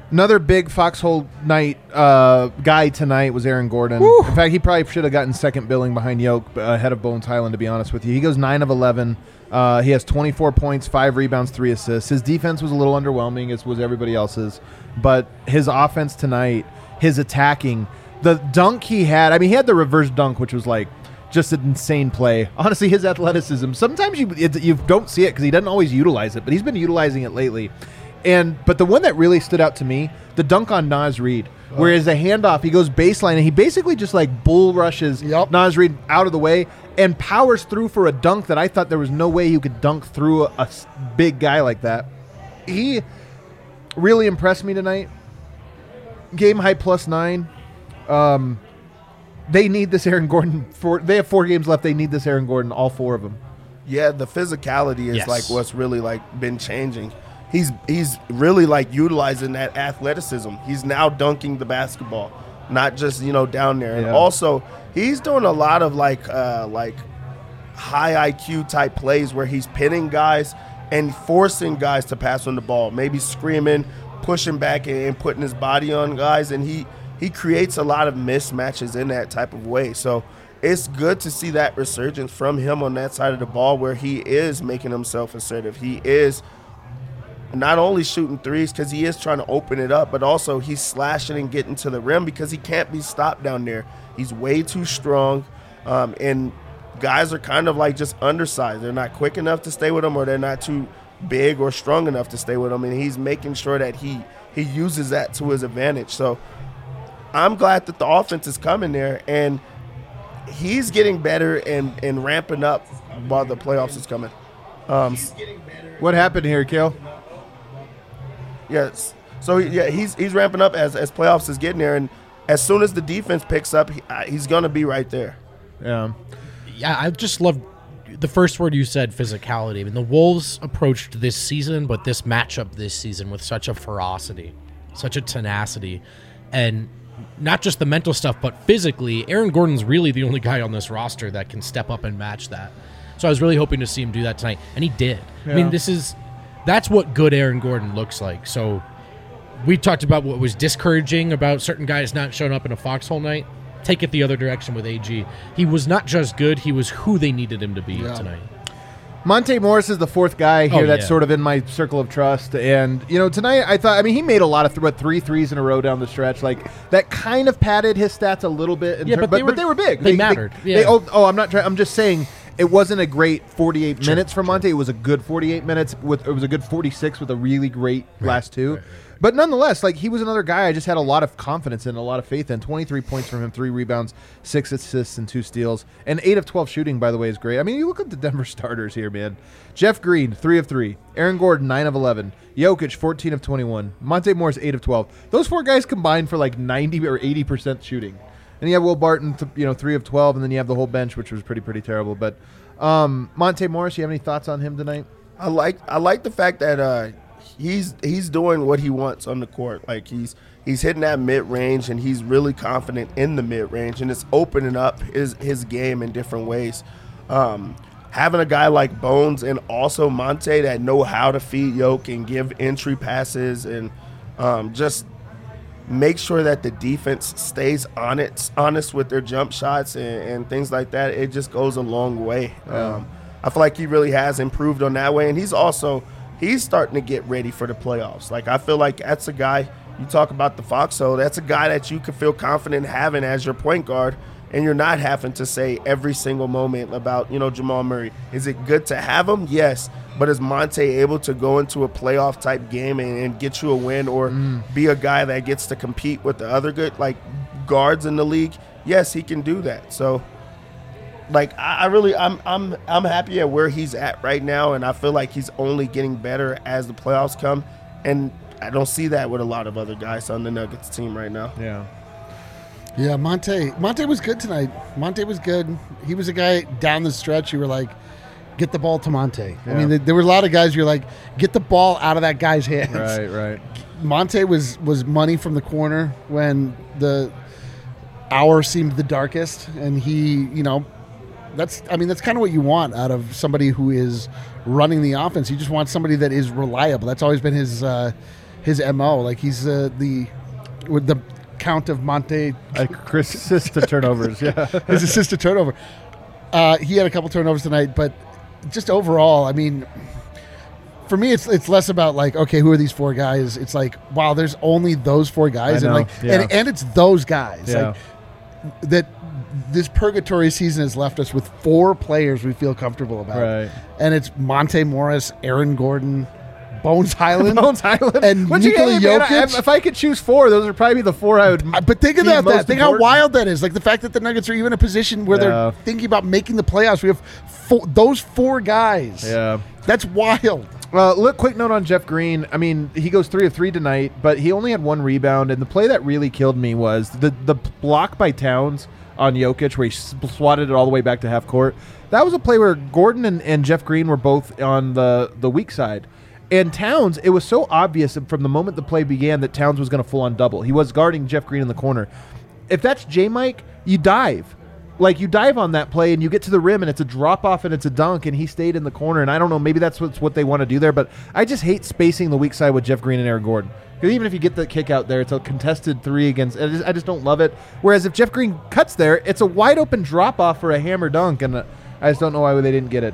Another big Foxhole night guy tonight was Aaron Gordon. Woo. In fact, he probably should have gotten second billing behind Yoke ahead of Bones Highland, to be honest with you. He goes 9 of 11. He has 24 points, 5 rebounds, 3 assists. His defense was a little underwhelming, as was everybody else's. But his offense tonight, his attacking, the dunk he had, I mean, he had the reverse dunk, which was like just an insane play. Honestly, his athleticism, sometimes you don't see it because he doesn't always utilize it, but he's been utilizing it lately. But the one that really stood out to me, the dunk on Naz Reid, where as a handoff, he goes baseline, and he basically just like bull rushes Naz Reid out of the way and powers through for a dunk that I thought there was no way you could dunk through a big guy like that. He really impressed me tonight. Game high +9. They need this Aaron Gordon. They have 4 games left. They need this Aaron Gordon, all 4 of them. Yeah, the physicality is like what's really like been changing. He's really like utilizing that athleticism. He's now dunking the basketball, not just down there. And also, he's doing a lot of like high IQ type plays where he's pinning guys and forcing guys to pass on the ball, maybe screaming, pushing back and putting his body on guys, and he creates a lot of mismatches in that type of way. So it's good to see that resurgence from him on that side of the ball where he is making himself assertive. He is not only shooting threes because he is trying to open it up, but also he's slashing and getting to the rim because he can't be stopped down there. He's way too strong, and guys are kind of like just undersized. They're not quick enough to stay with him, or they're not too big or strong enough to stay with him, and he's making sure that he uses that to his advantage. So I'm glad that the offense is coming there, and he's getting better and ramping up while the playoffs is coming. What happened here, Kale? Yes. So he's ramping up as playoffs is getting there, and as soon as the defense picks up, he's going to be right there. Yeah. Yeah, I just love the first word you said, physicality. I mean, the Wolves approached this season, but this matchup this season with such a ferocity, such a tenacity, and not just the mental stuff, but physically, Aaron Gordon's really the only guy on this roster that can step up and match that. So I was really hoping to see him do that tonight, and he did. Yeah. I mean, that's what good Aaron Gordon looks like. So we talked about what was discouraging about certain guys not showing up in a Foxhole night. Take it the other direction with AG. He was not just good, he was who they needed him to be tonight. Monte Morris is the 4th guy here that's sort of in my circle of trust. And, tonight I thought, he made a lot of 3 threes in a row down the stretch. Like, that kind of padded his stats a little bit. But they were big. They mattered. I'm just saying it wasn't a great 48 minutes from Monte. It was a good 48 minutes. It was a good 46 with a really great last 2. Right. But nonetheless, he was another guy I just had a lot of confidence in, a lot of faith in. 23 points from him, 3 rebounds, 6 assists, and 2 steals. And 8 of 12 shooting, by the way, is great. I mean, you look at the Denver starters here, man. Jeff Green, 3 of 3. Aaron Gordon, 9 of 11. Jokic, 14 of 21. Monte Morris, 8 of 12. Those 4 guys combined for 90 or 80% shooting. And you have Will Barton, 3 of 12, and then you have the whole bench, which was pretty terrible. But Monte Morris, you have any thoughts on him tonight? I like the fact that he's doing what he wants on the court. Like he's hitting that mid-range, and he's really confident in the mid-range, and it's opening up his game in different ways. Having a guy like Bones and also Monte that know how to feed Yoke and give entry passes and just make sure that the defense stays honest with their jump shots and things like that, it just goes a long way. I feel like he really has improved on that way, and he's starting to get ready for the playoffs. I feel like that's a guy, you talk about the Foxhole, that's a guy that you can feel confident having as your point guard, and you're not having to say every single moment about, Jamal Murray. Is it good to have him? Yes. But is Monte able to go into a playoff type game and get you a win or be a guy that gets to compete with the other good guards in the league? Yes, he can do that. So I'm happy at where he's at right now, and I feel like he's only getting better as the playoffs come, and I don't see that with a lot of other guys on the Nuggets team right now. Yeah, Monte was good tonight. Monte was good. He was a guy down the stretch. You were like, get the ball to Monte. Yeah. I mean, there were a lot of guys you're like, get the ball out of that guy's hands. Right. Monte was money from the corner when the hour seemed the darkest, and he, that's kind of what you want out of somebody who is running the offense. You just want somebody that is reliable. That's always been his his MO. Like he's with the count of Monte, Chris assist to turnovers. Yeah, his assist to turnover. He had a couple turnovers tonight, but just overall, I mean, for me, it's less about like, okay, who are these four guys? It's like, wow, there's only those four guys, I and know, like, yeah. and it's those guys Yeah. like that. This purgatory season has left us with four players we feel comfortable about, Right. and it's Monte Morris, Aaron Gordon, Bones Highland, Bones Highland, and Which, Nikola hey, man, Jokic. if I could choose four, those would probably be the four I would. But think about most that. Think how important. wild that is. Like the fact that the Nuggets are even in a position where Yeah. they're thinking about making the playoffs. We have those four guys. Yeah. That's wild. Look, quick note on Jeff Green. I mean, he goes 3 of 3 tonight, but he only had one rebound. And the play that really killed me was the block by Towns on Jokic, where he swatted it all the way back to half court. That was a play where Gordon and Jeff Green were both on the weak side. And Towns, it was so obvious from the moment the play began that Towns was going to full on double. He was guarding Jeff Green in the corner. If that's J-Mike, you dive. Like, you dive on that play and you get to the rim and it's a drop off and it's a dunk and he stayed in the corner. And I don't know, maybe that's what they want to do there. But I just hate spacing the weak side with Jeff Green and Aaron Gordon. Because even if you get the kick out there, it's a contested three against. I just don't love it. Whereas if Jeff Green cuts there, it's a wide open drop off for a hammer dunk. And I just don't know why they didn't get it.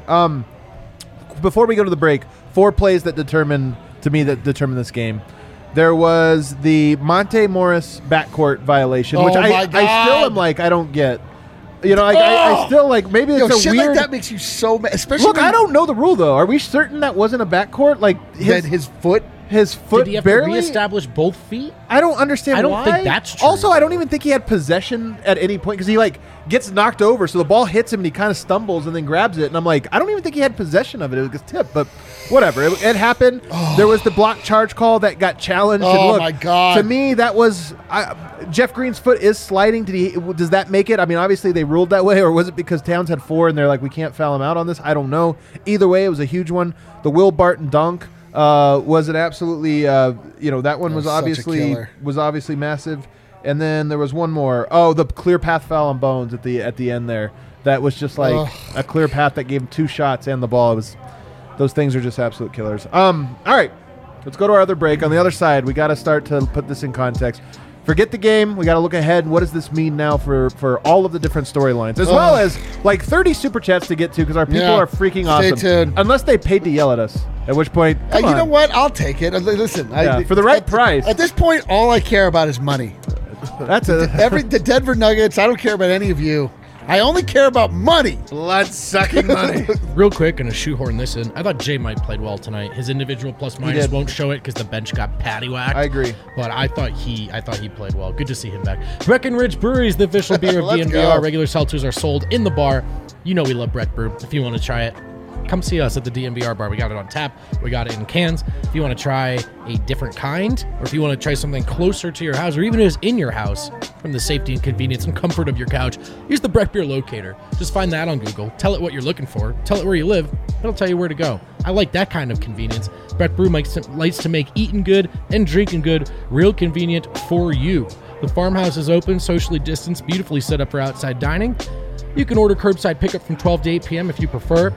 Before we go to the break, 4 plays that determine this game. There was the Monte Morris backcourt violation, which Oh my I God. still am like, I don't get. You know, like, I still like, maybe it's Yo, a shit weird. like that makes you so mad. Especially Look, when I don't know the rule though. Are we certain that wasn't a backcourt? Like that his foot. his foot Did he have barely. to reestablish both feet? I don't understand. I don't why. think that's true. Also, I don't even think he had possession at any point because he like gets knocked over, so the ball hits him and he kind of stumbles and then grabs it. And I'm like, I don't even think he had possession of it. It was tipped, but whatever. It happened. There was the block charge call that got challenged. and Oh, look, my God. To me, that was Jeff Green's foot is sliding. Does that make it? I mean, obviously they ruled that way, or was it because Towns had 4 and they're like, we can't foul him out on this? I don't know. Either way, it was a huge one. The Will Barton dunk. Was it absolutely? That one was such a obviously killer. massive. And then there was one more. Oh, the clear path foul on Bones at the end there. That was just like a clear path that gave him 2 shots and the ball. It was. Those things are just absolute killers. All right, let's go to our other break. On the other side, we got to start to put this in context. Forget the game. We got to look ahead. What does this mean now for all of the different storylines, as well as like 30 super chats to get to because our people are freaking Stay awesome. tuned. Unless they paid to yell at us, at which point, come You on. know what? I'll take it. Listen, for the right price. At this point, all I care about is money. That's a The Denver Nuggets. I don't care about any of you. I only care about money. blood sucking money. Real quick, gonna shoehorn this in. I thought Jay Mike played well tonight. His individual plus minus did. won't show it because the bench got patty whacked. I agree. But I thought he played well. Good to see him back. Breckenridge Brewery is the official beer of Let's DNVR. go. Regular seltzers are sold in the bar. You know we love Breck Brew. If you want to try it, come see us at the DNVR bar. We got it on tap. We got it in cans. If you want to try a different kind, or if you want to try something closer to your house, or even if it's in your house, from the safety and convenience and comfort of your couch, use the Breck Beer Locator. Just find that on Google. Tell it what you're looking for. Tell it where you live. It'll tell you where to go. I like that kind of convenience. Breck Brew likes to make eating good and drinking good real convenient for you. The farmhouse is open, socially distanced, beautifully set up for outside dining. You can order curbside pickup from 12 to 8 p.m. if you prefer.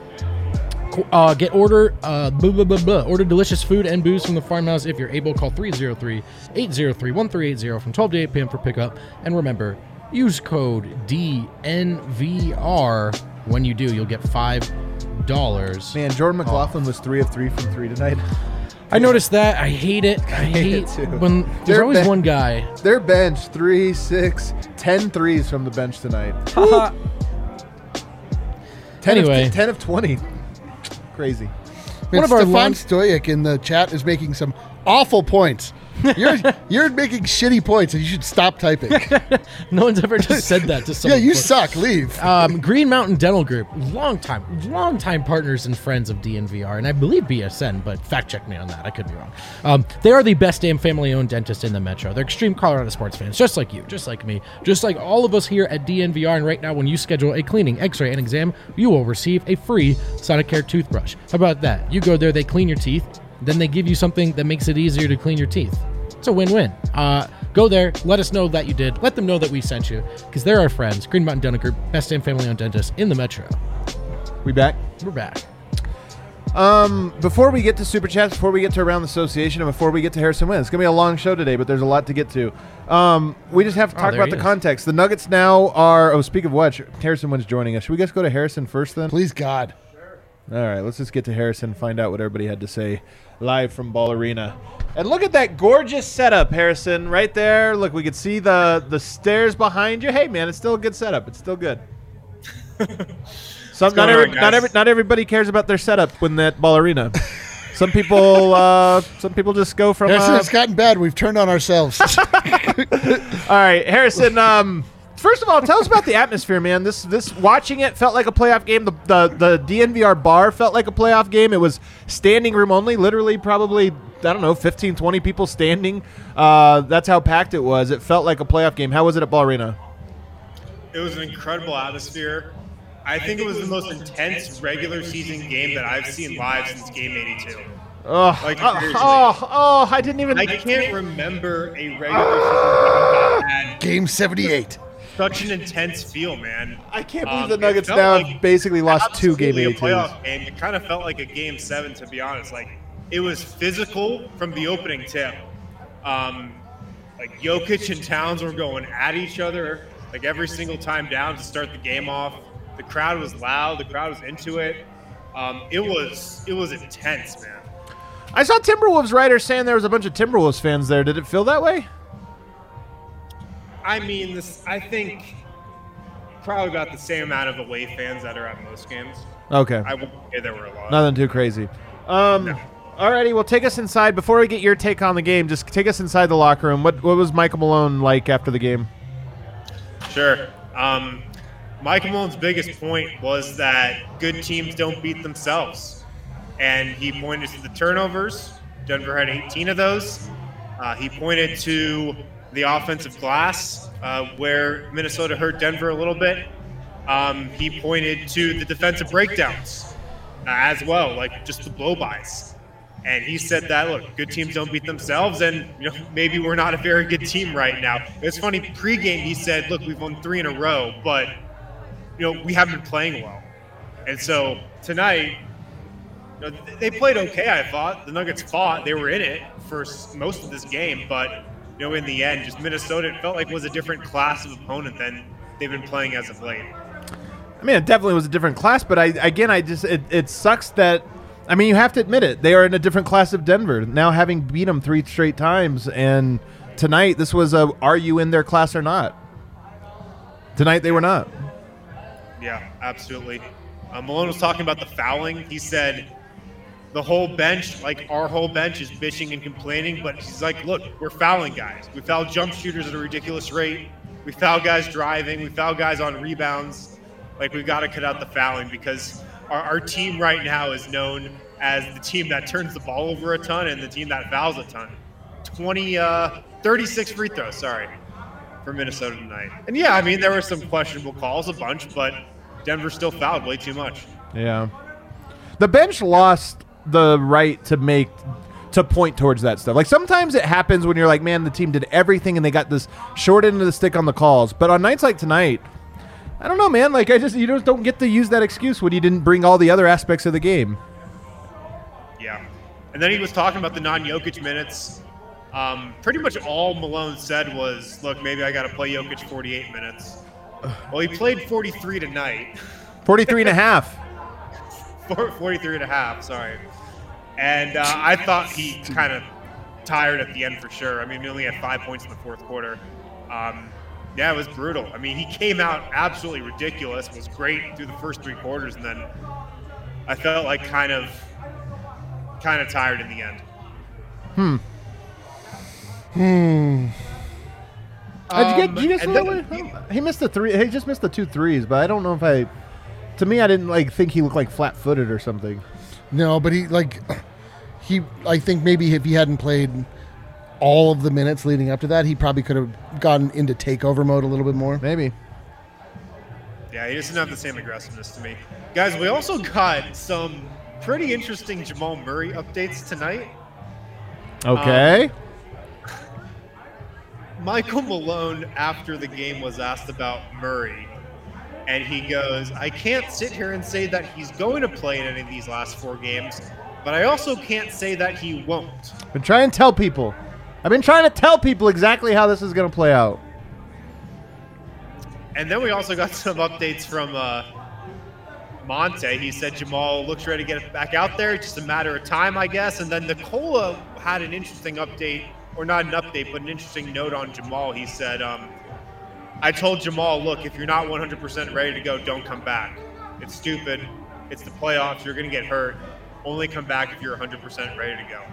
Order delicious food and booze from the farmhouse if you're able. Call 303-803-1380 from 12 to 8 p.m. for pickup. And remember, use code DNVR. When you do, you'll get $5. Man, Jordan McLaughlin was 3 of 3 from 3 tonight. I noticed that. I hate it. I hate it too. when there's They're always ba- one guy. Their bench 3, 6, 10 threes from the bench tonight. 10 Anyway. 10 of 20. Crazy. One of our Stefan long- Stoyek in the chat is making some awful points. You're making shitty points, and you should stop typing. No one's ever just said that to Yeah, someone. you before. suck. Leave. Green Mountain Dental Group, longtime partners and friends of DNVR, and I believe BSN, but fact check me on that. I could be wrong. They are the best damn family-owned dentist in the metro. They're extreme Colorado sports fans, just like you, just like me, just like all of us here at DNVR. And right now, when you schedule a cleaning, x-ray, and exam, you will receive a free Sonicare toothbrush. How about that? You go there, they clean your teeth, then they give you something that makes it easier to clean your teeth. It's a win-win. Go there. Let us know that you did. Let them know that we sent you, because they're our friends. Green Mountain Dental Group, best damn family-owned dentist in the metro. We back? We're back. Before we get to Super Chats, before we get to Around the Association, and before we get to Harrison Wynn, it's going to be a long show today, but there's a lot to get to. We just have to talk about the context. The Nuggets now are... Oh, speak of which, Harrison Wynn's joining us. Should we just go to Harrison first then? Please, God. All right, let's just get to Harrison, find out what everybody had to say live from Ball Arena. And look at that gorgeous setup, Harrison, right there. Look, we could see the stairs behind you. Hey, man, it's still a good setup. It's still good. Not everybody cares about their setup when they're at Ball Arena. Some people just go from. It's gotten bad. We've turned on ourselves. All right, Harrison. First of all, tell us about the atmosphere, man. This watching it felt like a playoff game. The DNVR bar felt like a playoff game. It was standing room only, literally probably, I don't know, 15, 20 people standing. That's how packed it was. It felt like a playoff game. How was it at Ball Arena? It was an incredible atmosphere. I think it was the most intense regular season game that I've seen live since Game 82. I didn't even... I can't remember a regular season game that had Game 78. such an intense feel, man. I can't believe the Nuggets now have basically lost 2 Game 82s. Playoff game. It kind of felt like a Game 7, to be honest. Like, it was physical from the opening tip. Like, Jokic and Towns were going at each other, like, every single time down to start the game off. The crowd was loud. The crowd was into it. It was intense, man. I saw Timberwolves writers saying there was a bunch of Timberwolves fans there. Did it feel that way? I mean, I think probably about the same amount of away fans that are at most games. Okay. I wouldn't say there were a lot. Nothing too crazy. No. Alrighty, well, take us inside. Before we get your take on the game, just take us inside the locker room. What was Michael Malone like after the game? Sure. Michael Malone's biggest point was that good teams don't beat themselves. And he pointed to the turnovers. Denver had 18 of those. He pointed to the offensive glass, where Minnesota hurt Denver a little bit. He pointed to the defensive breakdowns as well, like just the blow-bys. And he said that, look, good teams don't beat themselves, and maybe we're not a very good team right now. It's funny, pregame he said, look, we've won 3 in a row, but we haven't been playing well. And so tonight, they played okay, I thought. The Nuggets fought. They were in it for most of this game, but in the end, just Minnesota, it felt like was a different class of opponent than they've been playing as of late. I mean, it definitely was a different class, but it sucks that, I mean, you have to admit it. They are in a different class of Denver, now having beat them 3 straight times, and tonight this was are you in their class or not? Tonight they were not. Yeah, absolutely. Malone was talking about the fouling. He said the whole bench, like our whole bench, is bitching and complaining, but he's like, look, we're fouling guys. We foul jump shooters at a ridiculous rate. We foul guys driving. We foul guys on rebounds. Like, we've got to cut out the fouling because our team right now is known as the team that turns the ball over a ton and the team that fouls a ton. 36 free throws, for Minnesota tonight. And yeah, I mean, there were some questionable calls, a bunch, but Denver still fouled way too much. Yeah. The bench lost the right to point towards that stuff. Like, sometimes it happens when you're like, man, the team did everything and they got this short end of the stick on the calls. But on nights like tonight, I don't know, man. Like, you just don't get to use that excuse when you didn't bring all the other aspects of the game. Yeah. And then he was talking about the non-Jokic minutes. Pretty much all Malone said was, look, maybe I got to play Jokic 48 minutes. Well, he played 43 tonight. 43 and a half. 43 and a half, sorry. And I thought he kind of tired at the end for sure. I mean, he only had 5 points in the fourth quarter. Yeah, it was brutal. I mean, he came out absolutely ridiculous, was great through the first 3 quarters, and then I felt like kind of tired in the end. Did you guys he missed the 3. He just missed the 2 threes, but I don't know if to me, I didn't think he looked like flat-footed or something. No, but I think maybe if he hadn't played all of the minutes leading up to that, he probably could have gotten into takeover mode a little bit more. Maybe. Yeah, he doesn't have the same aggressiveness to me. Guys, we also got some pretty interesting Jamal Murray updates tonight. Okay. Michael Malone, after the game, was asked about Murray. And he goes, I can't sit here and say that he's going to play in any of these last 4 games, but I also can't say that he won't. I've been trying to tell people exactly how this is going to play out. And then we also got some updates from Monte. He said Jamal looks ready to get back out there. It's just a matter of time, I guess. And then Nicola had an interesting update, or not an update, but an interesting note on Jamal. He said, I told Jamal, look, if you're not 100% ready to go, don't come back. It's stupid. It's the playoffs. You're going to get hurt. Only come back if you're 100% ready to go.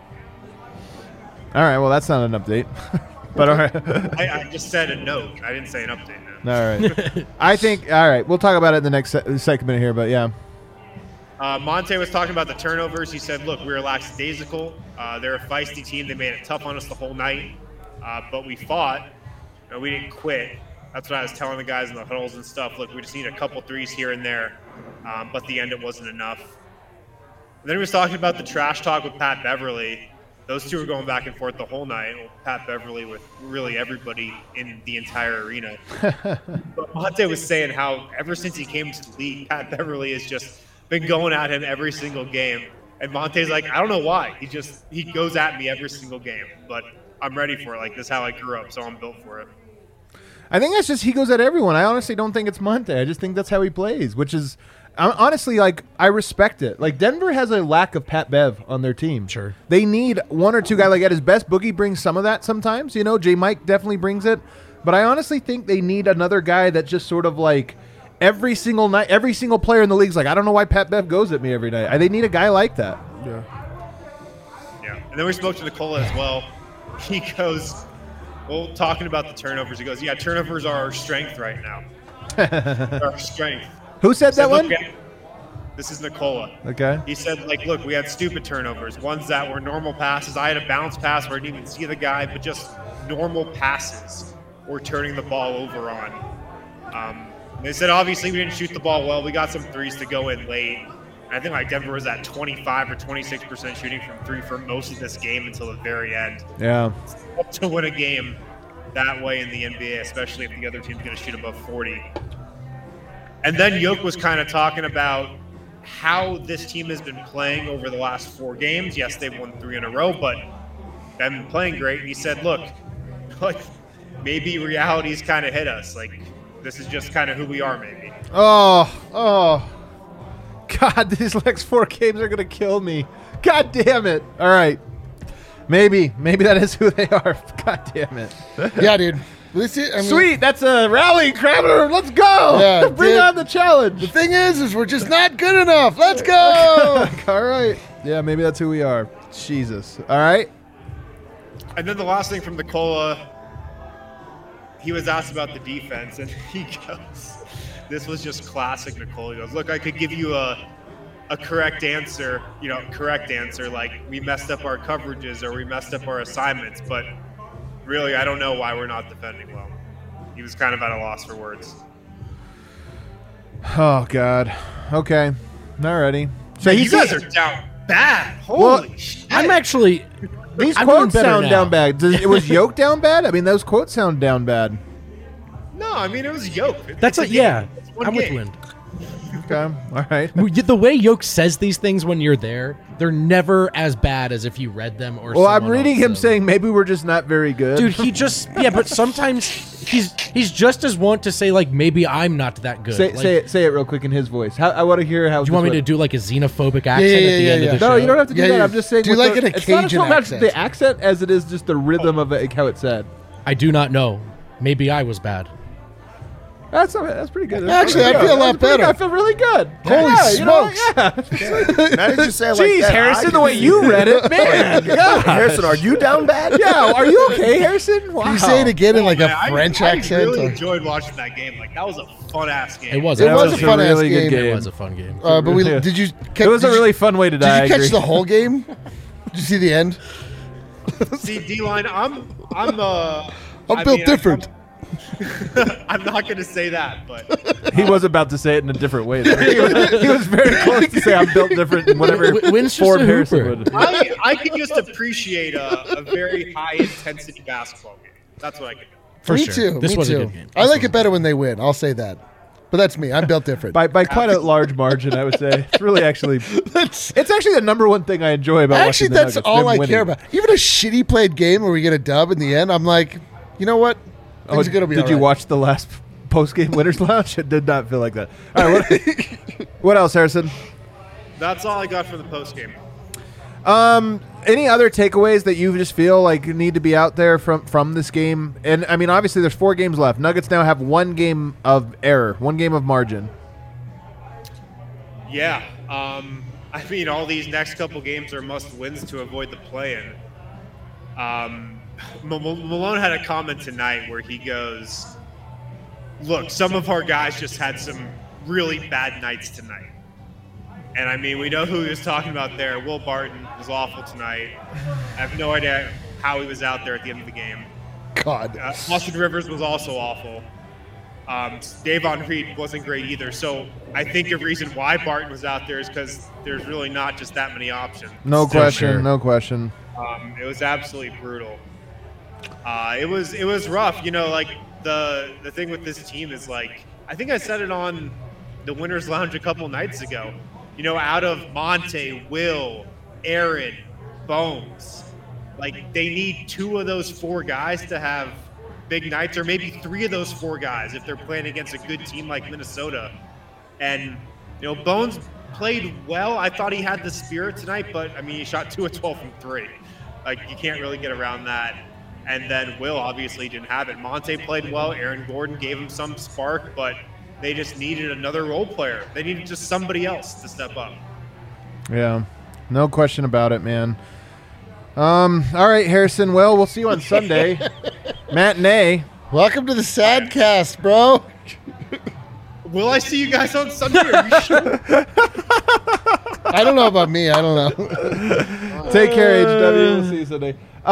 All right, well, that's not an update. But all right. I just said a note. I didn't say an update now. All right. I think, all right, we'll talk about it in the next segment here, but yeah. Monte was talking about the turnovers. He said, look, we were lackadaisical. They're a feisty team. They made it tough on us the whole night. But we fought. We didn't quit. That's what I was telling the guys in the huddles and stuff. Look, we just need a couple threes here and there. But at the end, it wasn't enough. And then he was talking about the trash talk with Pat Beverly. Those two were going back and forth the whole night. Pat Beverly with really everybody in the entire arena. But Monte was saying how ever since he came to the league, Pat Beverly has just been going at him every single game. And Monte's like, I don't know why. He goes at me every single game. But I'm ready for it. Like, this is how I grew up, so I'm built for it. I think that's just he goes at everyone. I honestly don't think it's Monte. I just think that's how he plays, which is honestly, like, I respect it. Like, Denver has a lack of Pat Bev on their team. Sure. They need one or two guys. Like, at his best, Boogie brings some of that sometimes. You know, J. Mike definitely brings it. But I honestly think they need another guy that just sort of, like, every single night, every single player in the league's like, I don't know why Pat Bev goes at me every night. They need a guy like that. Yeah. And then we spoke to Nicola as well. He goes, well, talking about the turnovers, he goes, yeah, turnovers are our strength right now. They're our strength. Who said that one? This is Nicola. Okay. He said, like, look, we had stupid turnovers, ones that were normal passes. I had a bounce pass where I didn't even see the guy, but just normal passes we're turning the ball over on. They said, obviously, we didn't shoot the ball well. We got some threes to go in late. I think like Denver was at 25 or 26% shooting from three for most of this game until the very end. Yeah. It's tough to win a game that way in the NBA, especially if the other team's going to shoot above 40. And then Yoke was kind of talking about how this team has been playing over the last 4 games. Yes, they've won 3 in a row, but they've been playing great. And he said, look, like maybe reality's kind of hit us. Like this is just kind of who we are, maybe. Oh. God, these next 4 games are going to kill me. God damn it. All right. Maybe that is who they are. God damn it. Yeah, dude. Listen, Sweet. That's a rallying cry. Let's go. Yeah, Bring on the challenge. The thing is we're just not good enough. Let's go. All right. Yeah, maybe that's who we are. Jesus. All right. And then the last thing from Nicola, he was asked about the defense, and he goes, this was just classic Nicola. He goes, look, I could give you a correct answer, like we messed up our coverages or we messed up our assignments, but really, I don't know why we're not defending well. He was kind of at a loss for words. Oh, God. Okay. Alrighty. So you guys are down bad. Holy shit. I'm actually... These I'm quotes doing better sound now. down bad. It was Yoke down bad? I mean, those quotes sound down bad. No, I mean, it was Yoke. That's It's a yeah. It's one I'm with game. Wind. Okay. All right. The way Yoke says these things when you're there, they're never as bad as if you read them or. Well, I'm someone reading else him said. saying maybe we're just not very good. Dude, he just but sometimes he's just as want to say like maybe I'm not that good. Say it real quick in his voice. I want to hear how. Do you want me to do like a xenophobic accent yeah, at the end yeah. of the No, show? you don't have to do Yeah, that. yeah. I'm just saying. Do you with like the, it a it's not Cajun so much accent? the accent as it is just the rhythm of it, how it's said. I do not know. Maybe I was bad. That's pretty good. Actually, I feel a lot better. I feel really good. Holy smokes! Now that you say it like Jeez, that, Harrison, I the way can you see- read it, man. God. Harrison, are you down bad? Yeah, are you okay, Harrison? Wow. Can you say it again in like a Man, French I accent? really or- enjoyed watching that game. Like, that was a fun-ass game. It was. It was was a fun ass really good game. It was a fun game. But Yeah. did you? It was a really fun way to die. Did you I catch agree. the whole game? Did you see the end? See, D-line, I'm built different. I'm not going to say that, but He was about to say it in a different way. Though. He was very close to say I'm built different in whatever Wynn's just form a Harrison hooper. would. I could just appreciate a very high-intensity basketball game. That's what I could do. For me sure. too. This me was too. a good game. I like it better when they win. I'll say that. But that's me. I'm built different. by quite a large margin, I would say. It's really actually That's- it's actually the number one thing I enjoy about Actually, watching the that's Nuggets, all them I winning. care about. Even a shitty played game where we get a dub in the end, I'm like, you know what? Things are going to be Did all you right. watch the last post-game winners lounge? It did not feel like that. All right, what else, Harrison? That's all I got from the post game. Any other takeaways that you just feel like need to be out there from this game? And I mean, obviously, there's 4 games left. Nuggets now have 1 game of error, 1 game of margin. Yeah. I mean, all these next couple games are must wins to avoid the play-in. Malone had a comment tonight where he goes, look, some of our guys just had some really bad nights tonight. And I mean, we know who he was talking about there. Will Barton was awful tonight. I have no idea how he was out there at the end of the game. God. Austin Rivers was also awful. Davon Reed wasn't great either. So I think a reason why Barton was out there is because there's really not just that many options. No question, sure. no question. It was absolutely brutal. It was rough. You know, like the thing with this team is like, I think I said it on the Winners Lounge a couple nights ago. You know, out of Monte, Will, Aaron, Bones, like they need 2 of those 4 guys to have big nights, or maybe 3 of those 4 guys if they're playing against a good team like Minnesota. And you know, Bones played well. I thought he had the spirit tonight, but I mean, he shot 2 of 12 from 3. Like you can't really get around that. And then Will obviously didn't have it. Monte played well. Aaron Gordon gave him some spark, but they just needed another role player. They needed just somebody else to step up. Yeah, no question about it, man. All right, Harrison. Well, we'll see you on Sunday. Matinee. Welcome to the Sadcast, bro. Will I see you guys on Sunday? Are you sure? I don't know about me. I don't know. Take care, HW. We'll see you Sunday.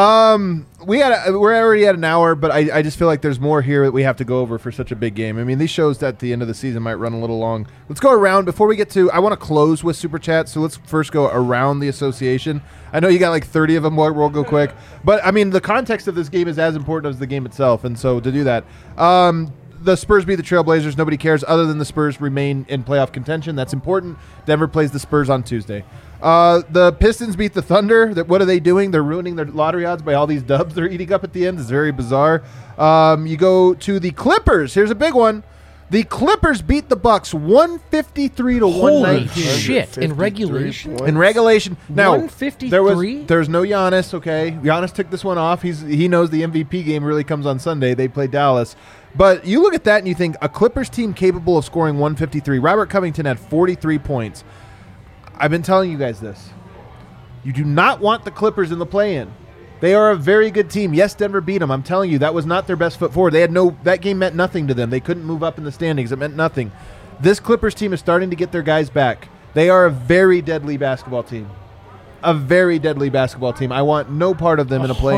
We're already at an hour, but I just feel like there's more here that we have to go over for such a big game. I mean, these shows at the end of the season might run a little long. Let's go around before we get to. I want to close with Super Chat, so let's first go around the association. I know you got like 30 of them. We'll go quick, but I mean, the context of this game is as important as the game itself, and so to do that. The Spurs beat the Trailblazers. Nobody cares other than the Spurs remain in playoff contention. That's important. Denver plays the Spurs on Tuesday. The Pistons beat the Thunder. What are they doing? They're ruining their lottery odds by all these dubs they're eating up at the end. It's very bizarre. You go to the Clippers. Here's a big one. The Clippers beat the Bucks 153 to Holy 119. shit! In regulation, In regulation, now 153? there's no Giannis. Okay, Giannis took this one off. He knows the MVP game really comes on Sunday. They play Dallas, but you look at that and you think a Clippers team capable of scoring 153. Robert Covington had 43 points. I've been telling you guys this. You do not want the Clippers in the play-in. They are a very good team. Yes, Denver beat them. I'm telling you, that was not their best foot forward. That game meant nothing to them. They couldn't move up in the standings. It meant nothing. This Clippers team is starting to get their guys back. They are a very deadly basketball team. A very deadly basketball team. I want no part of them in a play-in.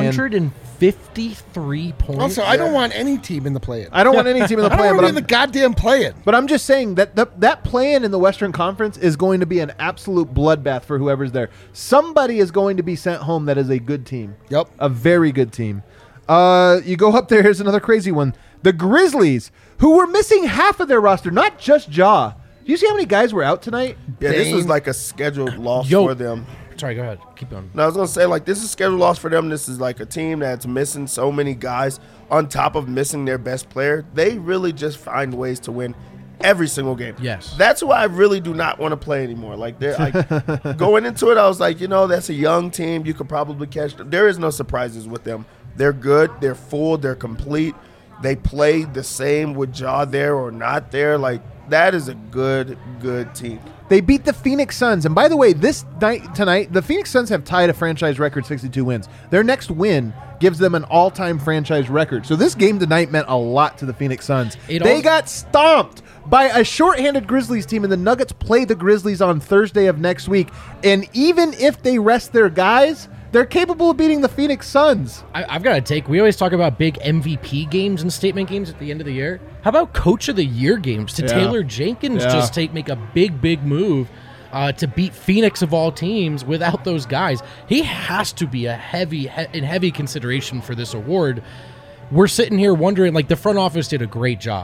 153 points. Also, I don't want any team in the play-in. I don't want any team in the I don't play-in, want but to be in the goddamn play-in. But I'm just saying that that play-in in the Western Conference is going to be an absolute bloodbath for whoever's there. Somebody is going to be sent home that is a good team. Yep. A very good team. You go up there, here's another crazy one. The Grizzlies, who were missing half of their roster, not just Ja. Do you see how many guys were out tonight? Yeah, this was Dame. like a scheduled loss Yo. for them. Sorry, go ahead. Keep going. No, I was going to say, like, this is a scheduled loss for them. This is like a team that's missing so many guys on top of missing their best player. They really just find ways to win every single game. Yes. That's why I really do not want to play anymore. Like, they're like going into it, I was like, you know, that's a young team. You could probably catch them. There is no surprises with them. They're good. They're full. They're complete. They play the same with Ja there or not there. Like, that is a good team. They beat the Phoenix Suns. And by the way, tonight, the Phoenix Suns have tied a franchise record 62 wins. Their next win gives them an all-time franchise record. So this game tonight meant a lot to the Phoenix Suns. They got stomped by a shorthanded Grizzlies team, and the Nuggets play the Grizzlies on Thursday of next week. And even if they rest their guys, they're capable of beating the Phoenix Suns. I've got a take. We always talk about big MVP games and statement games at the end of the year. How about Coach of the Year games? To Taylor Jenkins just make a big move to beat Phoenix of all teams without those guys. He has to be in heavy consideration for this award. We're sitting here wondering, like, the front office did a great job.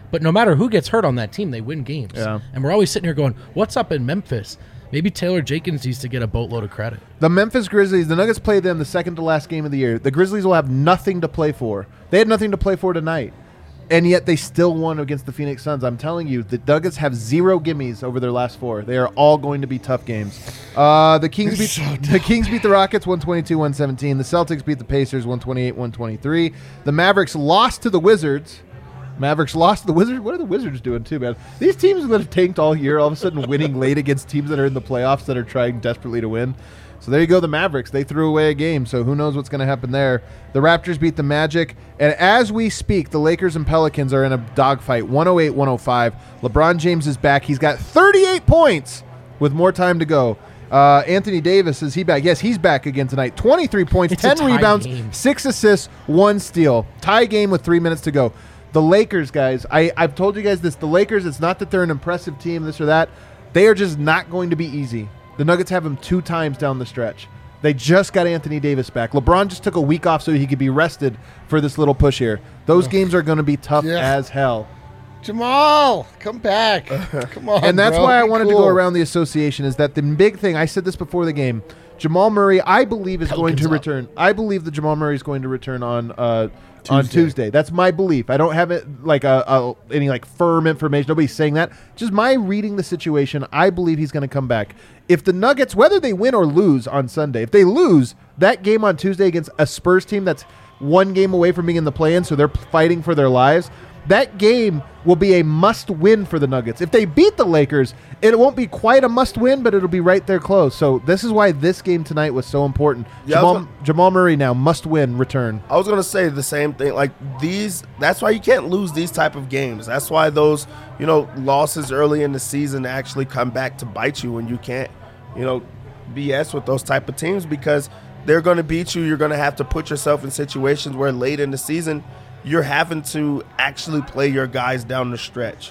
But no matter who gets hurt on that team, they win games. Yeah. And we're always sitting here going, what's up in Memphis? Maybe Taylor Jenkins needs to get a boatload of credit. The Memphis Grizzlies, the Nuggets play them the second to last game of the year. The Grizzlies will have nothing to play for. They had nothing to play for tonight. And yet they still won against the Phoenix Suns. I'm telling you, the Nuggets have 0 gimmies over their last 4. They are all going to be tough games. The Kings beat the Rockets 122-117. The Celtics beat the Pacers 128-123. The Mavericks lost to the Wizards. What are the Wizards doing too, man? These teams that have tanked all year, all of a sudden winning late against teams that are in the playoffs that are trying desperately to win. So there you go, the Mavericks. They threw away a game, so who knows what's going to happen there. The Raptors beat the Magic, and as we speak, the Lakers and Pelicans are in a dogfight, 108-105. LeBron James is back. He's got 38 points with more time to go. Anthony Davis, is he back? Yes, he's back again tonight. 23 points, It's a 10 tie rebounds, game. 6 assists, 1 steal. Tie game with 3 minutes to go. The Lakers, guys, I've told you guys this. The Lakers, it's not that they're an impressive team, this or that. They are just not going to be easy. The Nuggets have them 2 times down the stretch. They just got Anthony Davis back. LeBron just took a week off so he could be rested for this little push here. Those games are going to be tough as hell. Jamal, come back. Come on, And that's bro. why I Be wanted to cool. go around the association is that the big thing, I said this before the game, Jamal Murray, I believe, is going to Pelicans up. return. I believe that Jamal Murray is going to return on Tuesday. That's my belief. I don't have it like any like firm information. Nobody's saying that. Just my reading the situation. I believe he's going to come back. If the Nuggets, whether they win or lose on Sunday, if they lose that game on Tuesday against a Spurs team that's 1 game away from being in the play-in, so they're fighting for their lives, that game will be a must-win for the Nuggets. If they beat the Lakers, it won't be quite a must-win, but it'll be right there close. So this is why this game tonight was so important. Yeah, Jamal Murray now must-win return. I was gonna say the same thing. Like that's why you can't lose these type of games. That's why those, losses early in the season actually come back to bite you when you can't, BS with those type of teams because they're gonna beat you. You're gonna have to put yourself in situations where late in the season you're having to actually play your guys down the stretch.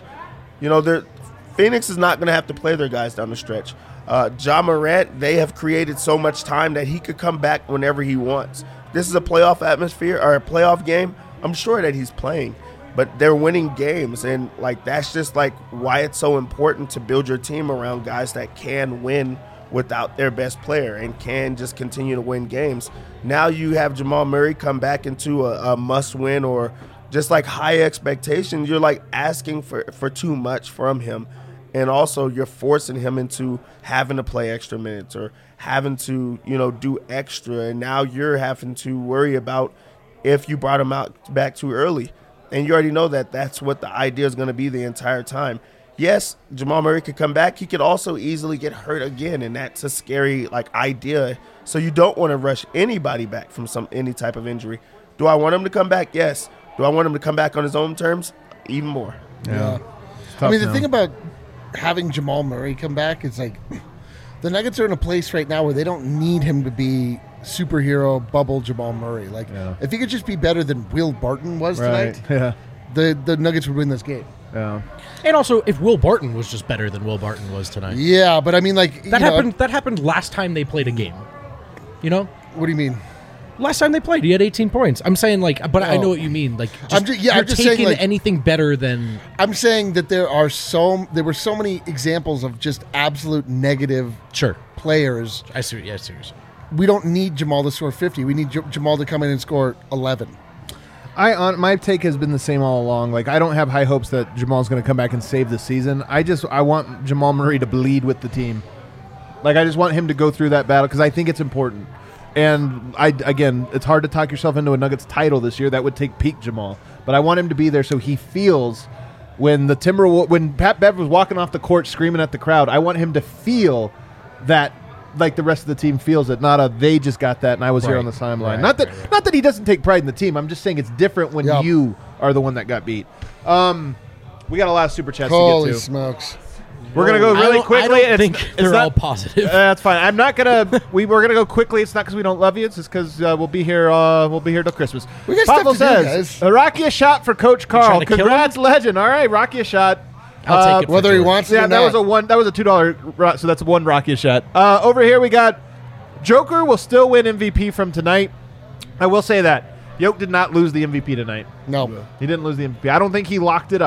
Phoenix is not gonna have to play their guys down the stretch. Ja Morant, they have created so much time that he could come back whenever he wants. This is a playoff atmosphere or a playoff game. I'm sure that he's playing, but they're winning games, and that's just why it's so important to build your team around guys that can win without their best player and can just continue to win games. Now you have Jamal Murray come back into a must-win or just high expectations. You're asking for too much from him. And also you're forcing him into having to play extra minutes or having to, do extra. And now you're having to worry about if you brought him back too early. And you already know that that's what the idea is going to be the entire time. Yes, Jamal Murray could come back. He could also easily get hurt again, and that's a scary idea. So you don't want to rush anybody back from any type of injury. Do I want him to come back? Yes. Do I want him to come back on his own terms? Even more. Yeah. I mean, the thing about having Jamal Murray come back is the Nuggets are in a place right now where they don't need him to be superhero bubble Jamal Murray. If he could just be better than Will Barton was tonight, Yeah. the Nuggets would win this game. Yeah. And also, if Will Barton was just better than Will Barton was tonight. Yeah, but I mean, That happened. That happened last time they played a game. What do you mean? Last time they played, he had 18 points. I'm saying but I know what you mean. I'm just saying, taking anything better than. I'm saying that there were so many examples of just absolute negative Sure. players. I see. Yeah, seriously. We don't need Jamal to score 50. We need Jamal to come in and score 11. My take has been the same all along. I don't have high hopes that Jamal's going to come back and save the season. I want Jamal Murray to bleed with the team. I just want him to go through that battle because I think it's important. And again, it's hard to talk yourself into a Nuggets title this year. That would take peak Jamal. But I want him to be there so he feels when Pat Bev was walking off the court screaming at the crowd. I want him to feel that the rest of the team feels it. Not they just got that and I was here on the sideline. Not that he doesn't take pride in the team. I'm just saying it's different when you are the one that got beat. We got a lot of super chats to Holy get to. smokes. We're gonna go really quickly. I don't think they're all positive. That's fine. I'm not gonna. We're gonna go quickly. It's not because we don't love you. It's just because we'll be here. We'll be here till Christmas. We got stuff Pavel to do, says, guys. "Rocky a shot for Coach Carl. trying to kill Congrats, legend. All right, Rocky a shot. I'll take it. Whether he wants it Yeah, or that not. was a one. That was a $2. So that's one Rocky a shot. Over here we got Joker will still win MVP from tonight. I will say that Yoke did not lose the MVP tonight. No. He didn't lose the MVP. I don't think he locked it up.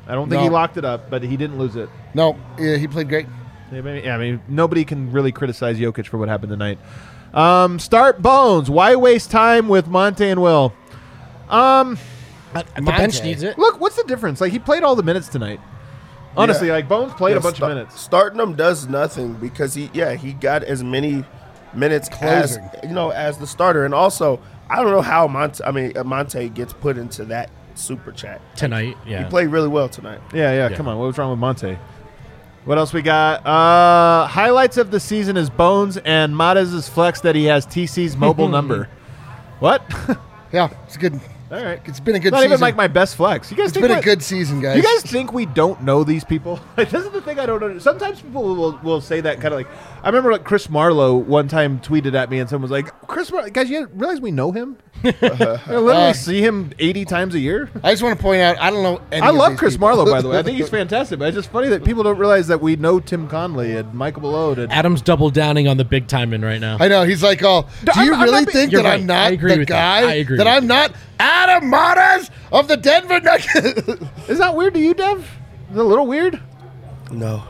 I don't think he No. locked it up, but he didn't lose it. No, yeah, he played great. Yeah, I mean, nobody can really criticize Jokic for what happened tonight. Start Bones. Why waste time with Monte and Will? The bench Monte. needs it. Look, what's the difference? Like, he played all the minutes tonight. Honestly, Yeah. like, Bones played Yeah, a bunch of minutes. Starting him does nothing because he got as many minutes as Closing. as the starter, and also I don't know how Monte gets put into that super chat Tonight, yeah. He played really well tonight. Yeah, Yeah. come on. What was wrong with Monte? What else we got? Highlights of the season is Bones and Matez's flex that he has TC's mobile number. What? Yeah, it's good. All right. It's been a good Not season. even like my best flex. You guys It's think been a what- good season, guys. You guys think we don't know these people? Like, this is the thing I don't know. Sometimes people will say that kind of like. I remember like Chris Marlowe one time tweeted at me and someone was like, "Chris Marlowe, guys, you realize we know him? I literally see him 80 times a year." I just want to point out, I don't know any I of love these Chris people. Marlowe, by the way. I think he's fantastic. But it's just funny that people don't realize that we know Tim Conley and Michael Malone. And Adam's double downing on the big timing right now. I know. He's like, oh, do I'm you not really being- think You're that right. I'm I not agree the with you. guy? I agree That with I'm you. not Adam Matez of the Denver Nuggets? is that weird to you, Dev? Is it a little weird? No,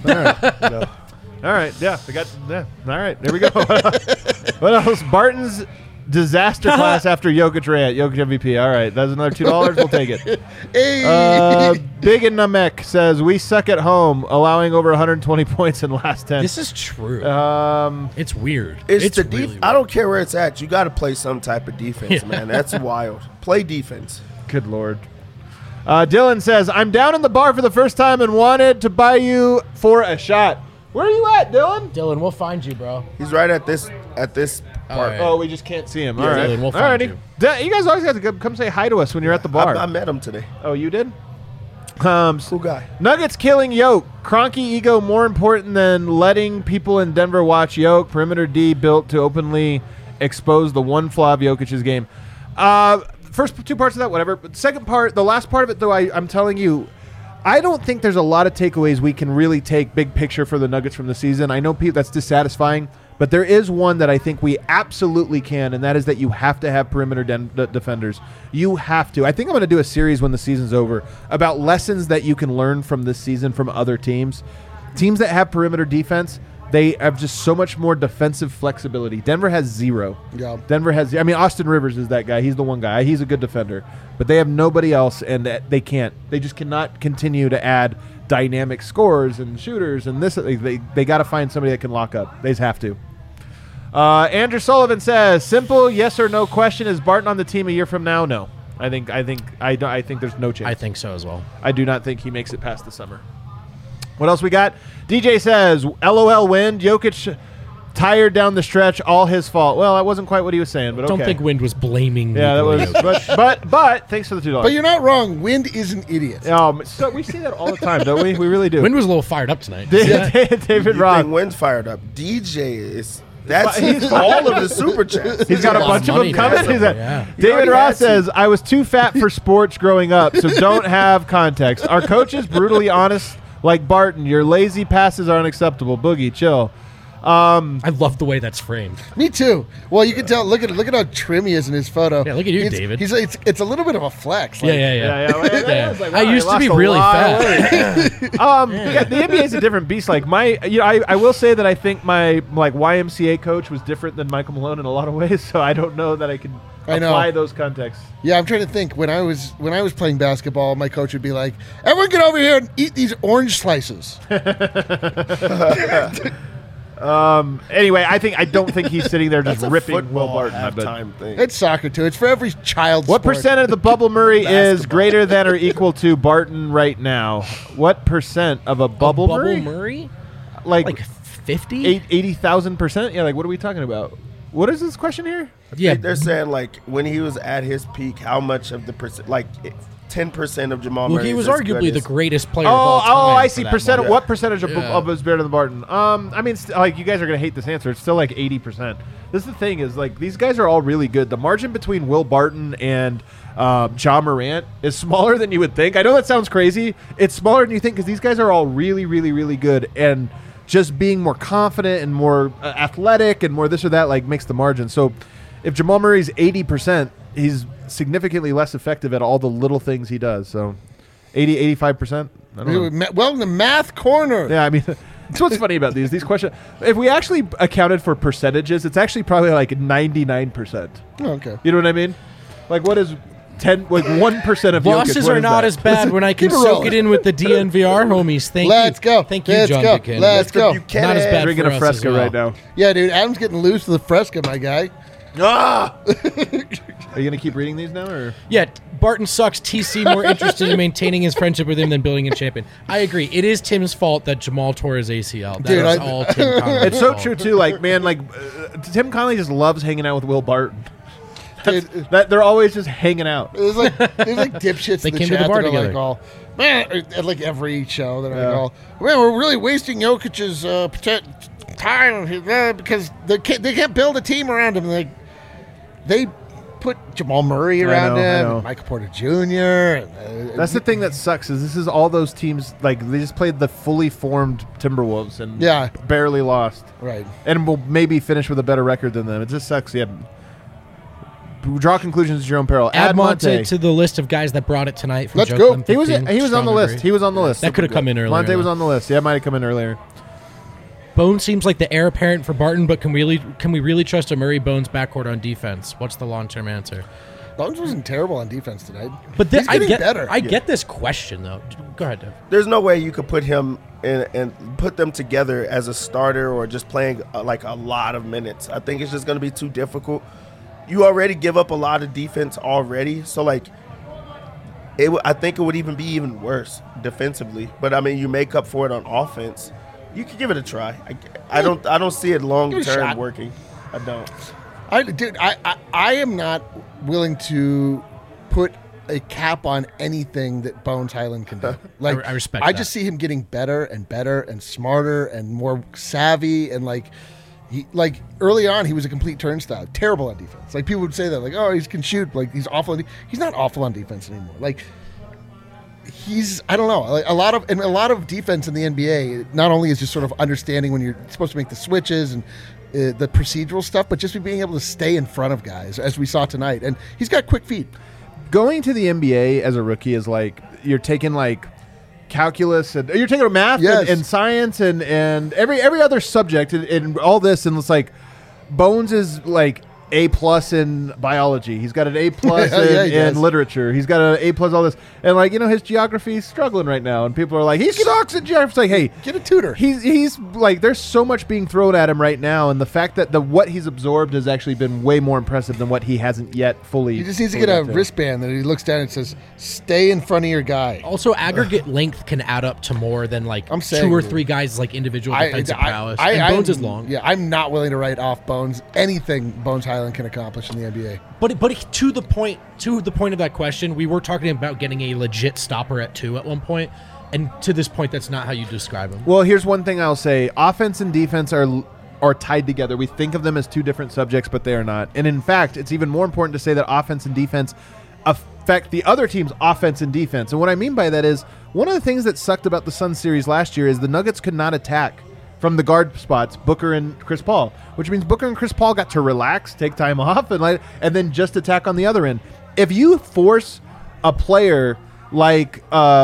All right, yeah, we got. Yeah. All right, there we go. What else? Barton's disaster class after Jokic rant. Jokic MVP. All right, that's another $2. We'll take it. Hey. Big and Namek says we suck at home, allowing over 120 points in the last 10. This is true. It's weird. it's the really I don't care where it's at. You got to play some type of defense, man. That's wild. Play defense. Good Lord. Dylan says I'm down in the bar for the first time and wanted to buy you for a shot. Where are you at, Dylan? Dylan, we'll find you, bro. He's right at this part. right. Oh, we just can't see him. All Yeah, right. Dylan, we'll find Alrighty. you. You guys always have to come say hi to us when you're at the bar. I met him today. Oh, you did? Cool guy. Nuggets killing Yoke. Cronky ego more important than letting people in Denver watch Yoke. Perimeter D built to openly expose the one flaw of Jokic's game. First two parts of that, whatever. But second part, the last part of it, though, I'm telling you, I don't think there's a lot of takeaways we can really take big picture for the Nuggets from the season. I know that's dissatisfying, but there is one that I think we absolutely can, and that is that you have to have perimeter defenders. You have to. I think I'm going to do a series when the season's over about lessons that you can learn from this season from other teams. Teams that have perimeter defense, they have just so much more defensive flexibility. Denver has zero. Yeah. Denver has, I mean, Austin Rivers is that guy. He's the one guy. He's a good defender. But they have nobody else, and they can't. They just cannot continue to add dynamic scorers and shooters and this. They got to find somebody that can lock up. They just have to. Andrew Sullivan says, simple yes or no question, is Barton on the team a year from now? No. I think there's no chance. I think so as well. I do not think he makes it past the summer. What else we got? DJ says, LOL Wind, Jokic tired down the stretch, all his fault. Well, that wasn't quite what he was saying, but okay. Don't think Wind was blaming. Yeah, that Nikola was. Jokic. But thanks for the $2. But you're not wrong. Wind is an idiot. So we see that all the time, don't we? We really do. Wind was a little fired up tonight. David You Roth. think Wynn's fired up? DJ is. That's all of the super chats. He's got a lot bunch of of them money coming. now. He's like- Yeah. He David already Roth has to. says, I was too fat for sports growing up, so don't have context. Our coach is brutally honest, like Barton. Your lazy passes are unacceptable. Boogie, chill. I love the way that's framed. Me too. Well, you can tell. Look at how trim he is in his photo. Yeah, look at you, He's- David. It's a little bit of a flex. Yeah. Well, Yeah. was like, I wow, used to lost be a really lot of fat. weight. Yeah, the NBA is a different beast. Like I will say that I think my YMCA coach was different than Michael Malone in a lot of ways. So I don't know that I can I know. apply those contexts. Yeah, I'm trying to think. When I was playing basketball, my coach would be like, "Everyone, get over here and eat these orange slices." Anyway, I don't think he's sitting there just That's a ripping Will football Barton. I bet. halftime thing. It's soccer too. It's for every child. What sport. percent of the Bubble Murray is Basketball. greater than or equal to Barton right now? What percent of a Bubble Murray? Murray? Like Like 50? 80,000%? Yeah, like what are we talking about? What is this question here? Yeah. They're saying like when he was at his peak, how much of the percent, like 10% of Jamal Well, Murray. he was is as good arguably the as- greatest player of all time. I for see. that Percent. moment. What percentage of Yeah. is better than Barton? I mean, like you guys are gonna hate this answer. It's still like 80%. This is the thing is like these guys are all really good. The margin between Will Barton and John Morant is smaller than you would think. I know that sounds crazy. It's smaller than you think because these guys are all really, really, really good and just being more confident and more athletic and more this or that like makes the margin. So if Jamal Murray's 80%, he's significantly less effective at all the little things he does. So 80, 85%. I don't know. Welcome to Math Corner. Yeah, I mean, that's what's funny about these questions. If we actually accounted for percentages, it's actually probably like 99%. Oh, okay. You know what I mean? Like, what is 1% of Jokic? Losses What are is not that? as bad when I can Keep it soak rolling. it in with the DNVR homies. Thank Let's you. go. Thank you, Let's John go. Buchanan. Let's go. Buchanan. Not as bad Drinking for a us Fresca as well. right now. Yeah, dude. Adam's getting loose to the Fresca, my guy. Ah! Are you gonna keep reading these now, or Yeah, Barton sucks. TC more interested in maintaining his friendship with him than building a champion. I agree. It is Tim's fault that Jamal tore his ACL. That Dude, is I- all Tim Connolly's it's so fault. true too. Like, man, like Tim Connolly just loves hanging out with Will Barton. Dude, That they're always just hanging out. there's like dipshits They in the came to the chat bar that are together. like all, man, at like every show that Yeah. I all, man, we're really wasting Jokic's time because they can't build a team around him. Like they put Jamal Murray around know, I him, know. and Michael Porter Jr. That's the thing that sucks is this is all those teams like they just played the fully formed Timberwolves and Yeah. barely lost right. and will maybe finish with a better record than them. It just sucks. Yeah. Draw conclusions, Jerome Peril. Add Monte to the list of guys that brought it tonight. From Let's Joe go. Clem He was 15. on the Strong list. agree. He was on the list. That could have come in earlier. Monte was though. on the list. Yeah, it might have come in earlier. Bones seems like the heir apparent for Barton, but can we really trust a Murray Bones backcourt on defense? What's the long term answer? Bones wasn't terrible on defense tonight. But He's I getting get better. I get this question though. Go ahead, Dev. There's no way you could put him in and put them together as a starter or just playing like a lot of minutes. I think it's just going to be too difficult. You already give up a lot of defense already, so like I think it would even be even worse defensively. But I mean, you make up for it on offense. You could give it a try. I don't see it long Give it a term shot. working. I don't. I am not willing to put a cap on anything that Bones Highland can do. Like I respect I that. just see him getting better and better and smarter and more savvy and like early on he was a complete turnstile, terrible on defense. Like people would say that like, oh, he can shoot, like he's awful. He's not awful on defense anymore. Like he's I don't know, like a lot of defense in the NBA not only is just sort of understanding when you're supposed to make the switches and the procedural stuff, but just being able to stay in front of guys as we saw tonight. And he's got quick feet. Going to the NBA as a rookie is like you're taking like calculus and you're taking math Yes. and science and every other subject and all this, and it's like Bones is like A+ in biology. He's got an A+ Yeah, he does. in literature. He's got an A+ all this, and like his geography is struggling right now, and people are like he sucks in geography. It's like, hey, Get a tutor. He's like there's so much being thrown at him right now, and the fact that what he's absorbed has actually been way more impressive than what he hasn't yet fully. He just needs to fully get a got wristband that he looks down and says, "Stay in front of your guy." Also, aggregate length can add up to more than like I'm saying, 2 or dude. 3 guys like individual defensive prowess. And I'm- Bones is long. Yeah, I'm not willing to write off Bones. Anything Bones Highland can accomplish in the NBA. But to the point of that question, we were talking about getting a legit stopper at 2 at one point, and to this point, that's not how you describe him. Well, here's one thing I'll say: offense and defense are tied together. We think of them as two different subjects, but they are not. And in fact, it's even more important to say that offense and defense affect the other team's offense and defense. And what I mean by that is one of the things that sucked about the Suns series last year is the Nuggets could not attack from the guard spots, Booker and Chris Paul, which means Booker and Chris Paul got to relax, take time off, and then just attack on the other end. If you force a player like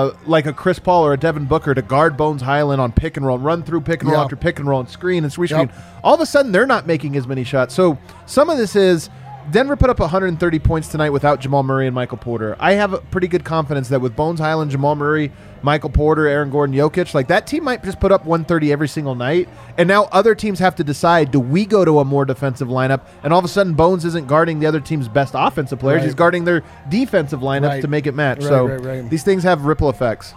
a Chris Paul or a Devin Booker to guard Bones Highland on pick and roll, run through pick and roll Yep. after pick and roll and screen and screen, Yep. all of a sudden they're not making as many shots. So some of this is Denver put up 130 points tonight without Jamal Murray and Michael Porter. I have a pretty good confidence that with Bones Highland, Jamal Murray, Michael Porter, Aaron Gordon, Jokic, like that team might just put up 130 every single night. And now other teams have to decide, do we go to a more defensive lineup? And all of a sudden Bones isn't guarding the other team's best offensive players. Right. He's guarding their defensive lineups Right. to make it match. Right, so right. these things have ripple effects.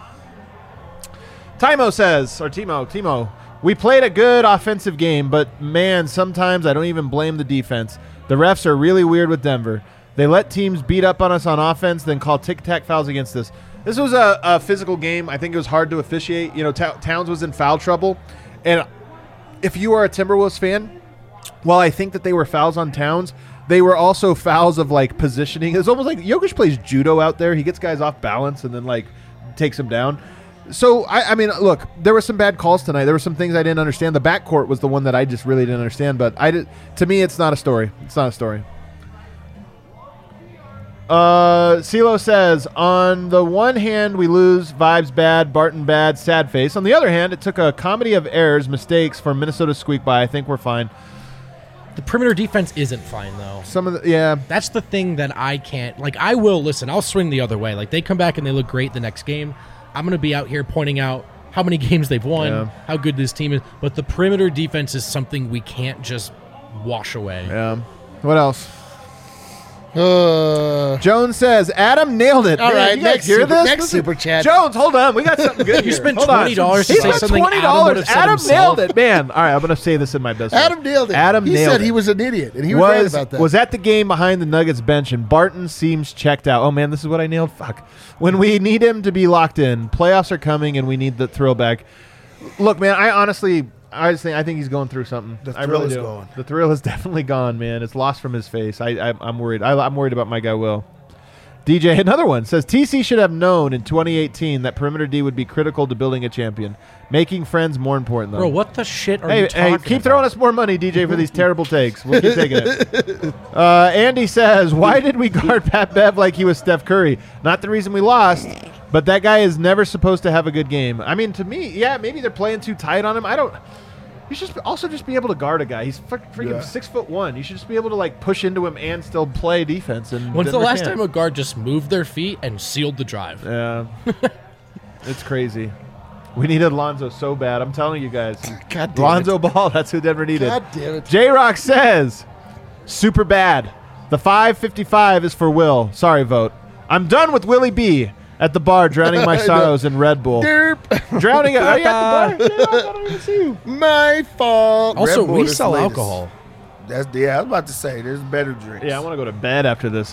Timo, we played a good offensive game, but man, sometimes I don't even blame the defense. The refs are really weird with Denver. They let teams beat up on us on offense, then call tic-tac fouls against us. This was a physical game. I think it was hard to officiate. Towns was in foul trouble. And if you are a Timberwolves fan, while I think that they were fouls on Towns, they were also fouls of, like, positioning. It's almost like Jokic plays judo out there. He gets guys off balance and then, like, takes them down. So, I mean, look, there were some bad calls tonight. There were some things I didn't understand. The backcourt was the one that I just really didn't understand. But to me, it's not a story. It's not a story. CeeLo says, on the one hand, we lose, vibes bad, Barton bad, sad face. On the other hand, it took a comedy of errors, mistakes for Minnesota to squeak by. I think we're fine. The perimeter defense isn't fine, though. Some of the, yeah. That's the thing that I can't, like, I will, listen, I'll swing the other way. Like, they come back and they look great the next game. I'm going to be out here pointing out how many games they've won, how good this team is. But the perimeter defense is something we can't just wash away. Yeah. What else? Jones says, Adam nailed it. All Man, right, you guys next hear super- this? next super chat. Jones, hold on. We got something good You here. spent Hold on. $20 to He say spent something $20. Adam would have said Adam himself. nailed it, man. All right, I'm going to say this in my best way. Adam nailed it. Adam he nailed said it. he was an idiot, and he was right about that. Was at the game behind the Nuggets bench, and Barton seems checked out. Oh, man, this is what I nailed? Fuck. When we need him to be locked in, playoffs are coming, and we need the thrill back. Look, man, I think he's going through something. The I thrill really is do. gone. The thrill is definitely gone, man. It's lost from his face. I'm worried. I'm worried about my guy Will. DJ, another one, says TC should have known in 2018 that perimeter D would be critical to building a champion. Making friends more important, though. Bro, what the shit are you talking Hey, about? keep throwing us more money, DJ, for these terrible takes. We'll keep taking it. Andy says, why did we guard Pat Bev like he was Steph Curry? Not the reason we lost, but that guy is never supposed to have a good game. I mean, to me, yeah, maybe they're playing too tight on him. You should also just be able to guard a guy. He's freaking 6'1". You should just be able to like push into him and still play defense. And When's the Denver last can't. time a guard just moved their feet and sealed the drive? Yeah, it's crazy. We needed Lonzo so bad. I'm telling you guys. God damn Lonzo Ball. That's who Denver needed. God damn it. J-Rock says, super bad. The 555 is for Will. Sorry, vote. I'm done with Willie B. at the bar drowning my sorrows in Red Bull. Derp. Drowning it. Are you at the bar? J-Rock, I don't even see you. My fault. Also, Red Bull we is sell the latest. alcohol. I was about to say, there's better drinks. Yeah, I want to go to bed after this.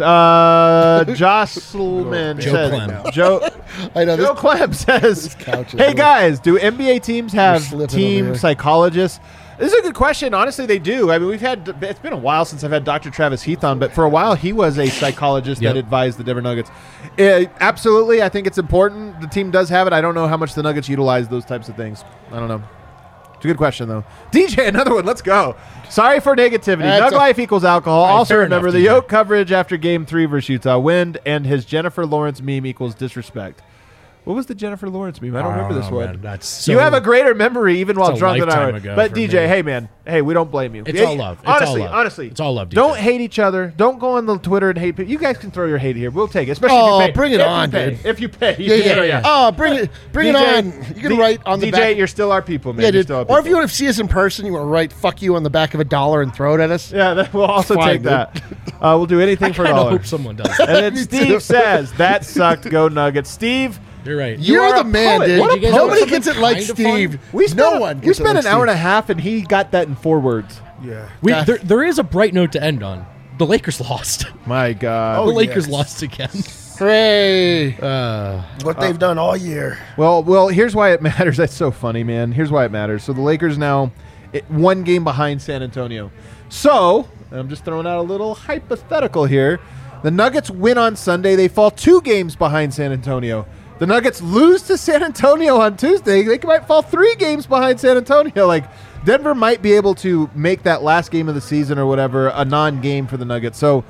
Jocelyn Joe says, Clem. Joe I know Joe this. Clem says, couch is hey really- guys, do NBA teams have slipping over team here. psychologists? This is a good question. Honestly, they do. I mean, it's been a while since I've had Dr. Travis Heath on, but for a while he was a psychologist Yep. that advised the Denver Nuggets. Absolutely, I think it's important. The team does have it. I don't know how much the Nuggets utilize those types of things. I don't know. It's a good question, though. DJ, another one. Let's go. Sorry for negativity. That's Nug life equals alcohol. right, Also fair remember enough, the DJ. Yoke coverage after Game 3 versus Utah. Wind and his Jennifer Lawrence meme equals disrespect. What was the Jennifer Lawrence meme? I don't remember this know, one. man. That's so, You have a greater memory even while It's a drunk than I lifetime would. ago But for DJ, me. hey man, hey, we don't blame you. It's Yeah, all love. It's honestly, all love. honestly, It's all love, DJ. Don't hate each other. Don't go on the Twitter and hate people. You guys can throw your hate here. We'll take it, especially Oh, if you pay. bring it If on, you pay. dude. If you pay, Yeah, you can yeah, throw- yeah. Oh, bring it on. You can write on the DJ, back. you're still our people, man. Yeah, You're dude. still our Or if people. you want to see us in person, you want to write "fuck you" on the back of $1 and throw it at us. Yeah, we'll also Fine, take dude. that. We'll do anything I for a kind of dollar. hope someone does. And then Me Steve too. says, that sucked, go Nuggets. Steve, You're right. You're are the a man, poet. dude. What a You guys poet. Nobody want gets it something like kind of Steve. we spent, No one. we gets it spent like an hour and Steve. a half, and he got that in 4 words. Yeah. God. There is a bright note to end on. The Lakers lost. My God. The Lakers yes. lost again. Hooray! What they've done all year. Well, here's why it matters. That's so funny, man. Here's why it matters. So the Lakers now 1 game behind San Antonio. So, and I'm just throwing out a little hypothetical here. The Nuggets win on Sunday. They fall 2 games behind San Antonio. The Nuggets lose to San Antonio on Tuesday. They might fall 3 games behind San Antonio. Like, Denver might be able to make that last game of the season or whatever a non-game for the Nuggets. So,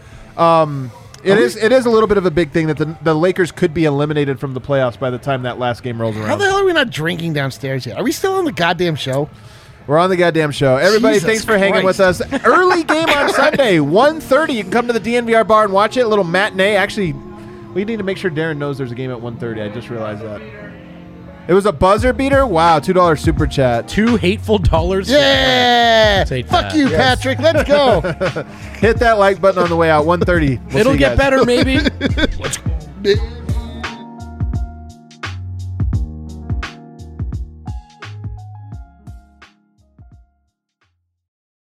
it is a little bit of a big thing that the Lakers could be eliminated from the playoffs by the time that last game rolls around. How the hell are we not drinking downstairs yet? Are we still on the goddamn show? We're on the goddamn show. Everybody, Jesus thanks for hanging with us. Early game on Sunday, 1:30. You can come to the DNVR bar and watch it. A little matinee. Actually, we need to make sure Darren knows there's a game at 1:30. I just realized that. It was a buzzer beater? Wow, $2 super chat. $2 hateful dollars. Yeah! Take Fuck that. you, Patrick. Let's go. Hit that like button on the way out. 1:30. We'll see It'll you get guys. better, maybe. Let's go.